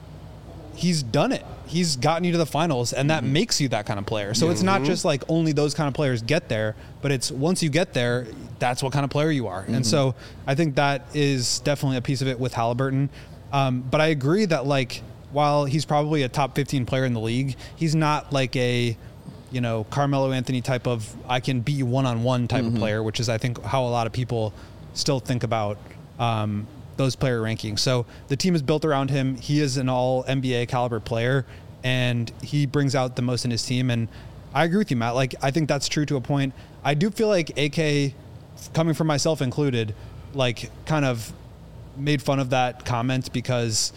he's done it. He's gotten you to the finals, and that mm-hmm. makes you that kind of player. So mm-hmm. it's not just like only those kind of players get there, but it's once you get there, that's what kind of player you are. Mm-hmm. And so I think that is definitely a piece of it with Halliburton. Um, but I agree that, like, while he's probably a top fifteen player in the league, he's not like a, you know, Carmelo Anthony type of, I can beat you one-on-one type mm-hmm. of player, which is, I think, how a lot of people still think about um, those player rankings. So the team is built around him. He is an all N B A caliber player, and he brings out the most in his team. And I agree with you, Matt. Like, I think that's true to a point. I do feel like A K, coming from myself included, like, kind of made fun of that comment because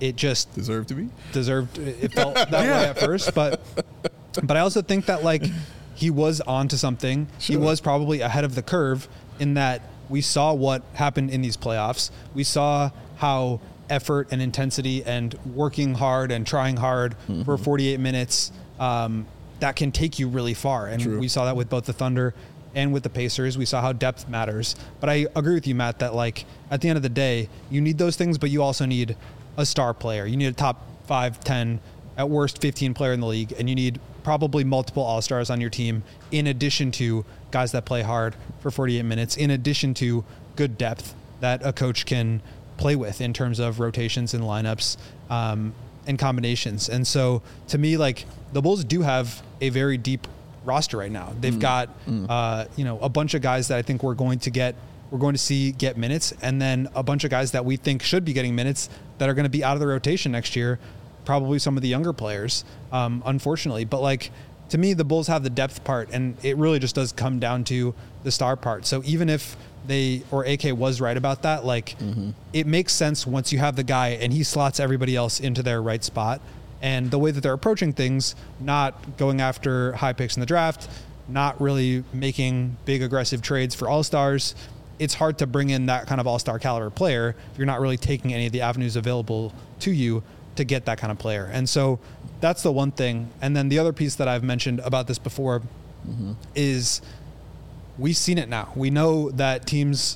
it just Deserved to be. deserved. It felt that way at first, but but I also think that like he was onto something. He Sure. was probably ahead of the curve in that we saw what happened in these playoffs. We saw how effort and intensity and working hard and trying hard Mm-hmm. for forty-eight minutes um, that can take you really far. And True. we saw that with both the Thunder and with the Pacers. We saw how depth matters. But I agree with you, Matt, that like at the end of the day, you need those things, but you also need a star player. You need a top five, ten, at worst fifteen player in the league, and you need probably multiple all-stars on your team in addition to guys that play hard for forty-eight minutes, in addition to good depth that a coach can play with in terms of rotations and lineups um, and combinations. And so to me, like the Bulls do have a very deep roster right now. They've got, uh, you know, a bunch of guys that I think we're going to get, we're going to see get minutes, and then a bunch of guys that we think should be getting minutes that are going to be out of the rotation next year. Probably some of the younger players, um, unfortunately. But like, to me, the Bulls have the depth part, and it really just does come down to the star part. So even if they, or A K was right about that, like Mm-hmm. it makes sense once you have the guy and he slots everybody else into their right spot. And the way that they're approaching things, not going after high picks in the draft, not really making big aggressive trades for all-stars, it's hard to bring in that kind of all-star caliber player if you're not really taking any of the avenues available to you to get that kind of player. And so that's the one thing. And then the other piece that I've mentioned about this before Mm-hmm. is we've seen it now. We know that teams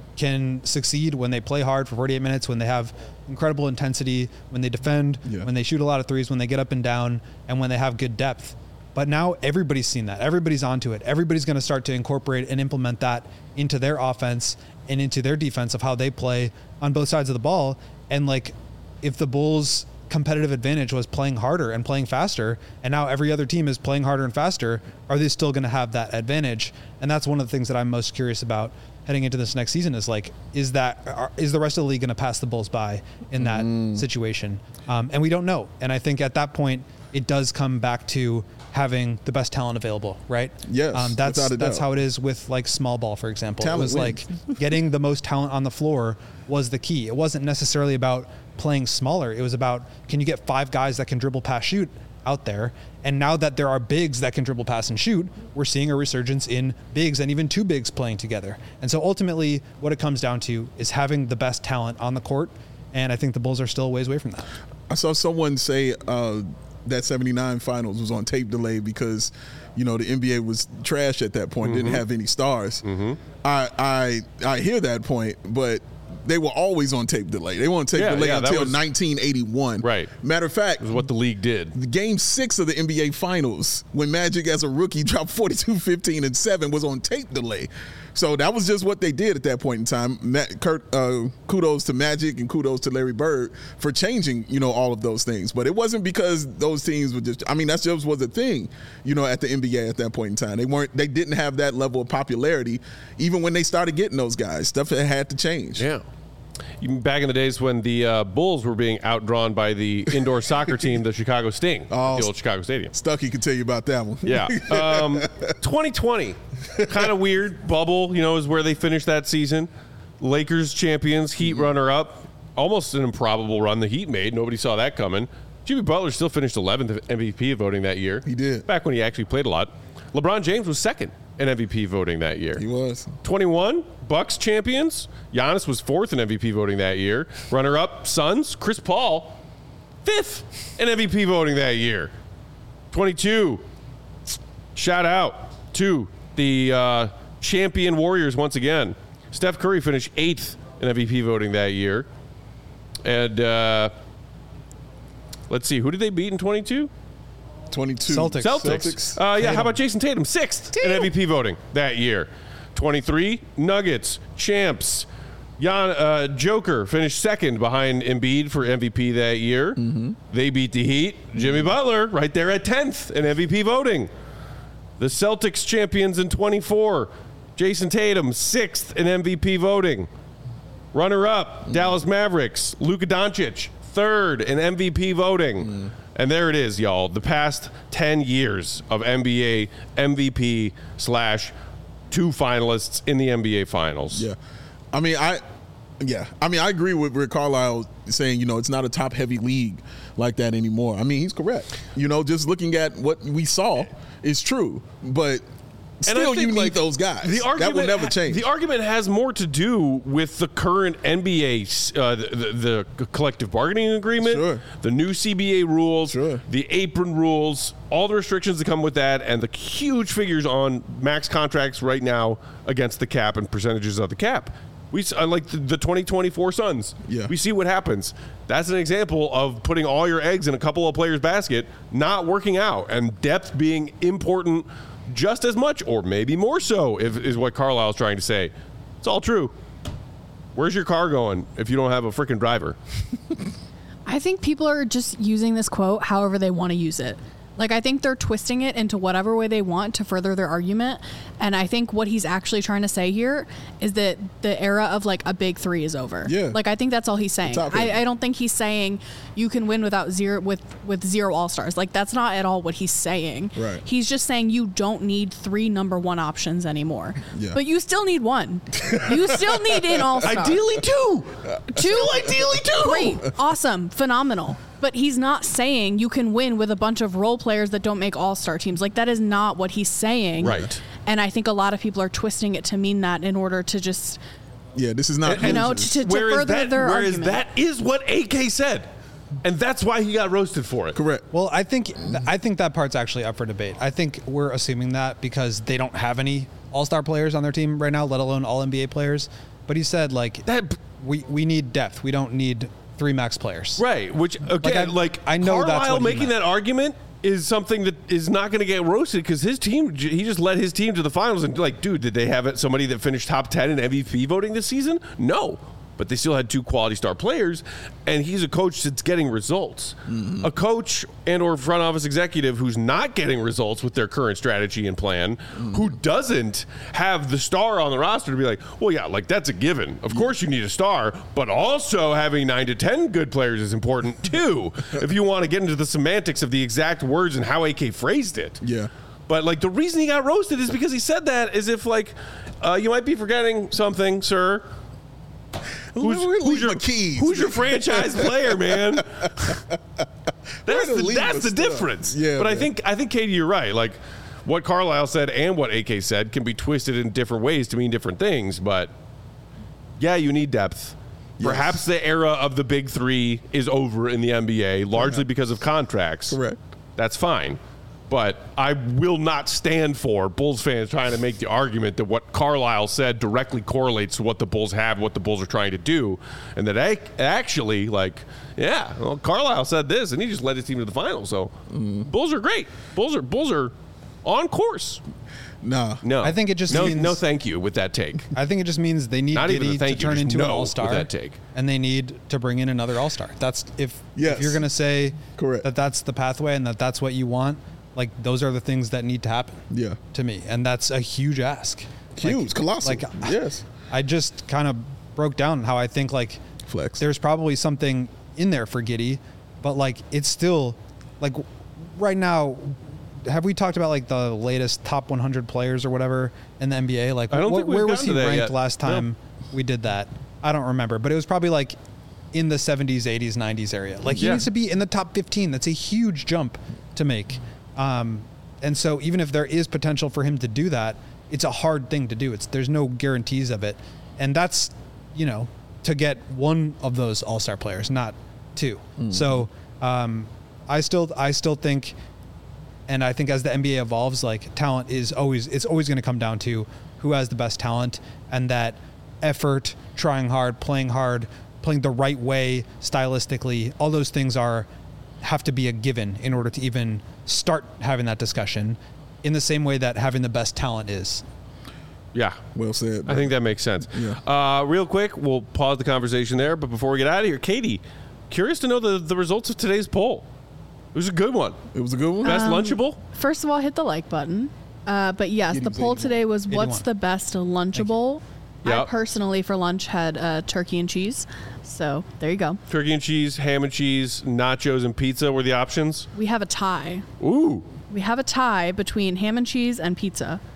can succeed when they play hard for forty-eight minutes, when they have incredible intensity, when they defend, Yeah. when they shoot a lot of threes, when they get up and down, and when they have good depth. But now everybody's seen that. Everybody's onto it. Everybody's going to start to incorporate and implement that into their offense and into their defense of how they play on both sides of the ball. And like, if the Bulls' competitive advantage was playing harder and playing faster, and now every other team is playing harder and faster, are they still going to have that advantage? And that's one of the things that I'm most curious about heading into this next season is like, is that, are, is the rest of the league going to pass the Bulls by in that Mm. situation? Um, and we don't know. And I think at that point, it does come back to having the best talent available, right? Yes, Um, that's without a that's doubt. how it is with like small ball, for example. Talent it was wins. like getting the most talent on the floor was the key. It wasn't necessarily about playing smaller. It was about, can you get five guys that can dribble, pass, shoot out there? And now that there are bigs that can dribble, pass, and shoot, we're seeing a resurgence in bigs and even two bigs playing together. And so ultimately what it comes down to is having the best talent on the court. And I think the Bulls are still a ways away from that. I saw someone say uh, that seventy-nine finals was on tape delay because, you know, the N B A was trash at that point, Mm-hmm. didn't have any stars. I, I I hear that point, but they were always on tape delay. They were on tape Yeah, delay yeah, that until was- nineteen eighty-one. Right. Matter of fact, This is what the league did. the game six of the N B A Finals, when Magic as a rookie dropped forty-two, fifteen, and seven, was on tape delay. So that was just what they did at that point in time. Ma- Kurt, uh, kudos to Magic and kudos to Larry Bird for changing, you know, all of those things. But it wasn't because those teams were just, I mean, that just was a thing, you know, at the N B A at that point in time. They weren't, they didn't have that level of popularity even when they started getting those guys. Stuff that had to change. Yeah. Even back in the days when the uh, Bulls were being outdrawn by the indoor soccer team, the Chicago Sting, Oh, the old Chicago Stadium. Stucky can tell you about that one. Yeah. Um, twenty twenty, kind of weird. Bubble, you know, is where they finished that season. Lakers champions, Heat runner up. Almost an improbable run the Heat made. Nobody saw that coming. Jimmy Butler still finished eleventh M V P voting that year. He did. Back when he actually played a lot. LeBron James was second in M V P voting that year. He was. twenty-one, Bucks champions. Giannis was fourth in M V P voting that year. Runner-up, Suns. Chris Paul, fifth in M V P voting that year. twenty-two, shout out to the uh, champion Warriors once again. Steph Curry finished eighth in M V P voting that year. And uh, let's see, who did they beat in twenty-two? twenty-two. Celtics. Celtics. Uh, yeah, how about Jason Tatum? Sixth in M V P voting that year. twenty-three, Nuggets, champs. Jan, uh, Joker finished second behind Embiid for M V P that year. Mm-hmm. They beat the Heat. Jimmy Butler right there at tenth in M V P voting. The Celtics champions in twenty-four. Jason Tatum, sixth in M V P voting. Runner-up, mm. Dallas Mavericks. Luka Doncic, third in M V P voting. Mm. And there it is, y'all. The past ten years of N B A M V P slash two finalists in the N B A Finals. Yeah. I mean, I Yeah, I mean, I agree with Rick Carlisle saying, you know, it's not a top-heavy league like that anymore. I mean, he's correct. You know, just looking at what we saw is true, but And I still, think, you need like, those guys. The argument, that will never change. The argument has more to do with the current N B A, uh, the, the, the collective bargaining agreement, Sure. the new C B A rules, Sure. the apron rules, all the restrictions that come with that, and the huge figures on max contracts right now against the cap and percentages of the cap. We uh, like the, the twenty twenty-four Suns. Yeah. We see what happens. That's an example of putting all your eggs in a couple of players' basket, not working out, and depth being important just as much, or maybe more so, if, is what Carlisle's trying to say. It's all true. Where's your car going if you don't have a freaking driver? I think people are just using this quote however they want to use it. Like, I think they're twisting it into whatever way they want to further their argument. And I think what he's actually trying to say here is that the era of, like, a big three is over. Yeah. Like, I think that's all he's saying. Top I, end. I don't think he's saying you can win without zero with, with zero all-stars. Like, that's not at all what he's saying. Right. He's just saying you don't need three number one options anymore. Yeah. But you still need one. You still need an all-star. Ideally, two. Two? Ideally, two. Great. Awesome. Phenomenal. But he's not saying you can win with a bunch of role players that don't make all-star teams. Like, that is not what he's saying. Right. And I think a lot of people are twisting it to mean that in order to just, Yeah, this is not. you know, losers. to, to Whereas further that, their whereas argument. that is what A K said. And that's why he got roasted for it. Correct. Well, I think I think that part's actually up for debate. I think we're assuming that because they don't have any all-star players on their team right now, let alone all N B A players. But he said, like, That we, we need depth. We don't need three max players. Right, which again, I- like, I know that's Carlisle what he making meant. that argument is something that is not going to get roasted because his team, he just led his team to the finals. And like, dude, did they have it somebody that finished top ten in M V P voting this season? No, but they still had two quality star players, and he's a coach that's getting results. Mm-hmm. A coach and or front office executive who's not getting results with their current strategy and plan, Mm-hmm. who doesn't have the star on the roster to be like, well, yeah, like that's a given. Of course you need a star, but also having nine to ten good players is important too, if you want to get into the semantics of the exact words and how A K phrased it. Yeah. But like the reason he got roasted is because he said that as if like, uh, you might be forgetting something, sir. Who's, Where who's leave your my keys? who's your franchise player, man? That's to the leave that's my the stuff? difference. Yeah, but I man. think I think Katie, you're right. Like what Carlisle said and what A K said can be twisted in different ways to mean different things. But yeah, you need depth. Yes. Perhaps the era of the big three is over in the N B A, largely because of contracts. Correct. That's fine. But I will not stand for Bulls fans trying to make the argument that what Carlisle said directly correlates to what the Bulls have, what the Bulls are trying to do, and that ac- actually, like, yeah, well, Carlisle said this, and he just led his team to the finals. So, Bulls are great. Bulls are Bulls are on course. Nah. No, I think it just no, means- no, thank you with that take. I think it just means they need Not even Giddey a thank to you, turn just into no an with all-star, that take. and they need to bring in another all-star. That's if, Yes. if you're going to say Correct. that that's the pathway and that that's what you want, like those are the things that need to happen. Yeah. To me, and that's a huge ask. Huge, Like- colossal. Like, yes. I just kind of broke down how I think like Flex. there's probably something in there for Giddey, but like it's still like right now. Have we talked about like the latest top one hundred players or whatever in the N B A? Like, I don't wh- think we've where was gotten he to that ranked yet. last time we did that? I don't remember, but it was probably like in the seventies, eighties, nineties area. Like he Yeah. needs to be in the top fifteen. That's a huge jump to make. Um, and so even if there is potential for him to do that, it's a hard thing to do. It's there's no guarantees of it, and that's you know to get one of those all-star players, not two. So um, I still I still think, and I think as the N B A evolves, like talent is always it's always going to come down to who has the best talent, and that effort, trying hard, playing hard, playing the right way stylistically, all those things are have to be a given in order to even start having that discussion in the same way that having the best talent is. Yeah. Well said. I think that makes sense. Yeah. Uh, real quick, we'll pause the conversation there. But before we get out of here, Katie, curious to know the, the results of today's poll. It was a good one. it was a good one. Best lunchable? First of all, hit the like button. Uh, but yes, the eighty-one. poll today was what's eighty-one. the best lunchable? I Yep. personally, for lunch, had uh, turkey and cheese. So there you go. Turkey and cheese, ham and cheese, nachos and pizza were the options. We have a tie. Ooh. We have a tie between ham and cheese and pizza.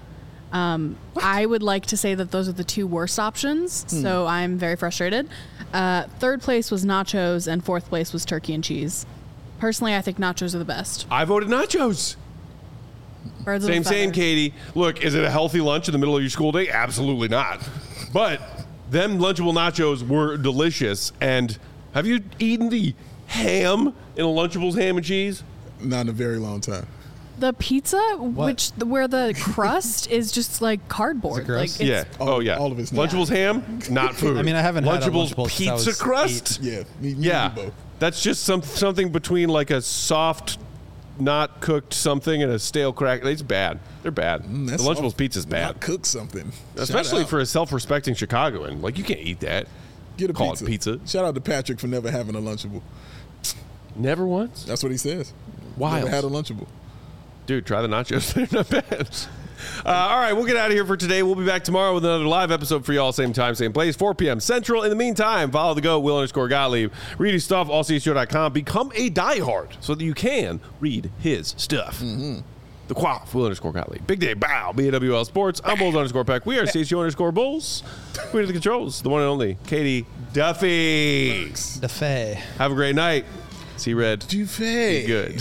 Um, I would like to say that those are the two worst options, Hmm. so I'm very frustrated. Uh, third place was nachos, and fourth place was turkey and cheese. Personally, I think nachos are the best. I voted nachos. Birds of a Same, same, feather. Katie. Look, is it a healthy lunch in the middle of your school day? Absolutely not. But them Lunchable nachos were delicious. And have you eaten the ham in a Lunchables ham and cheese? Not in a very long time. The pizza, which where the crust is just like cardboard. Is it gross? Like it's, Yeah. All- oh, yeah. all of it's Lunchables ham, not food. I mean, I haven't had a Lunchables Lunchables since I pizza was crust. Yeah, me, me Yeah, and you both. that's just some something between like a soft, not cooked something and a stale crack. It's bad. They're bad. Mm, that's the Lunchables soft. pizza's bad, Not cook something, Shout especially out. for a self-respecting Chicagoan. Like you can't eat that. Get a call pizza. it pizza. Shout out to Patrick for never having a Lunchable. Never once. That's what he says. Wild. Never had a Lunchable. Dude, try the nachos. They're not bad. Uh, all right, we'll get out of here for today. We'll be back tomorrow with another live episode for y'all. Same time, same place, four p.m. Central. In the meantime, follow the GOAT, Will underscore Gottlieb. Read his stuff, all c s show dot com. Become a diehard so that you can read his stuff. Mm-hmm. The Quaff, Will underscore Gottlieb. Big Day Bow, B A W L Sports. I'm Bulls underscore Peck. We are C S U underscore Bulls. We are the controls, the one and only Katie Duffy. The Fae. Have a great night. See Red. Duvet. Be good.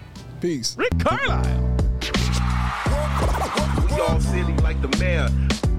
Peace. Rick Carlisle. We all silly like the mayor.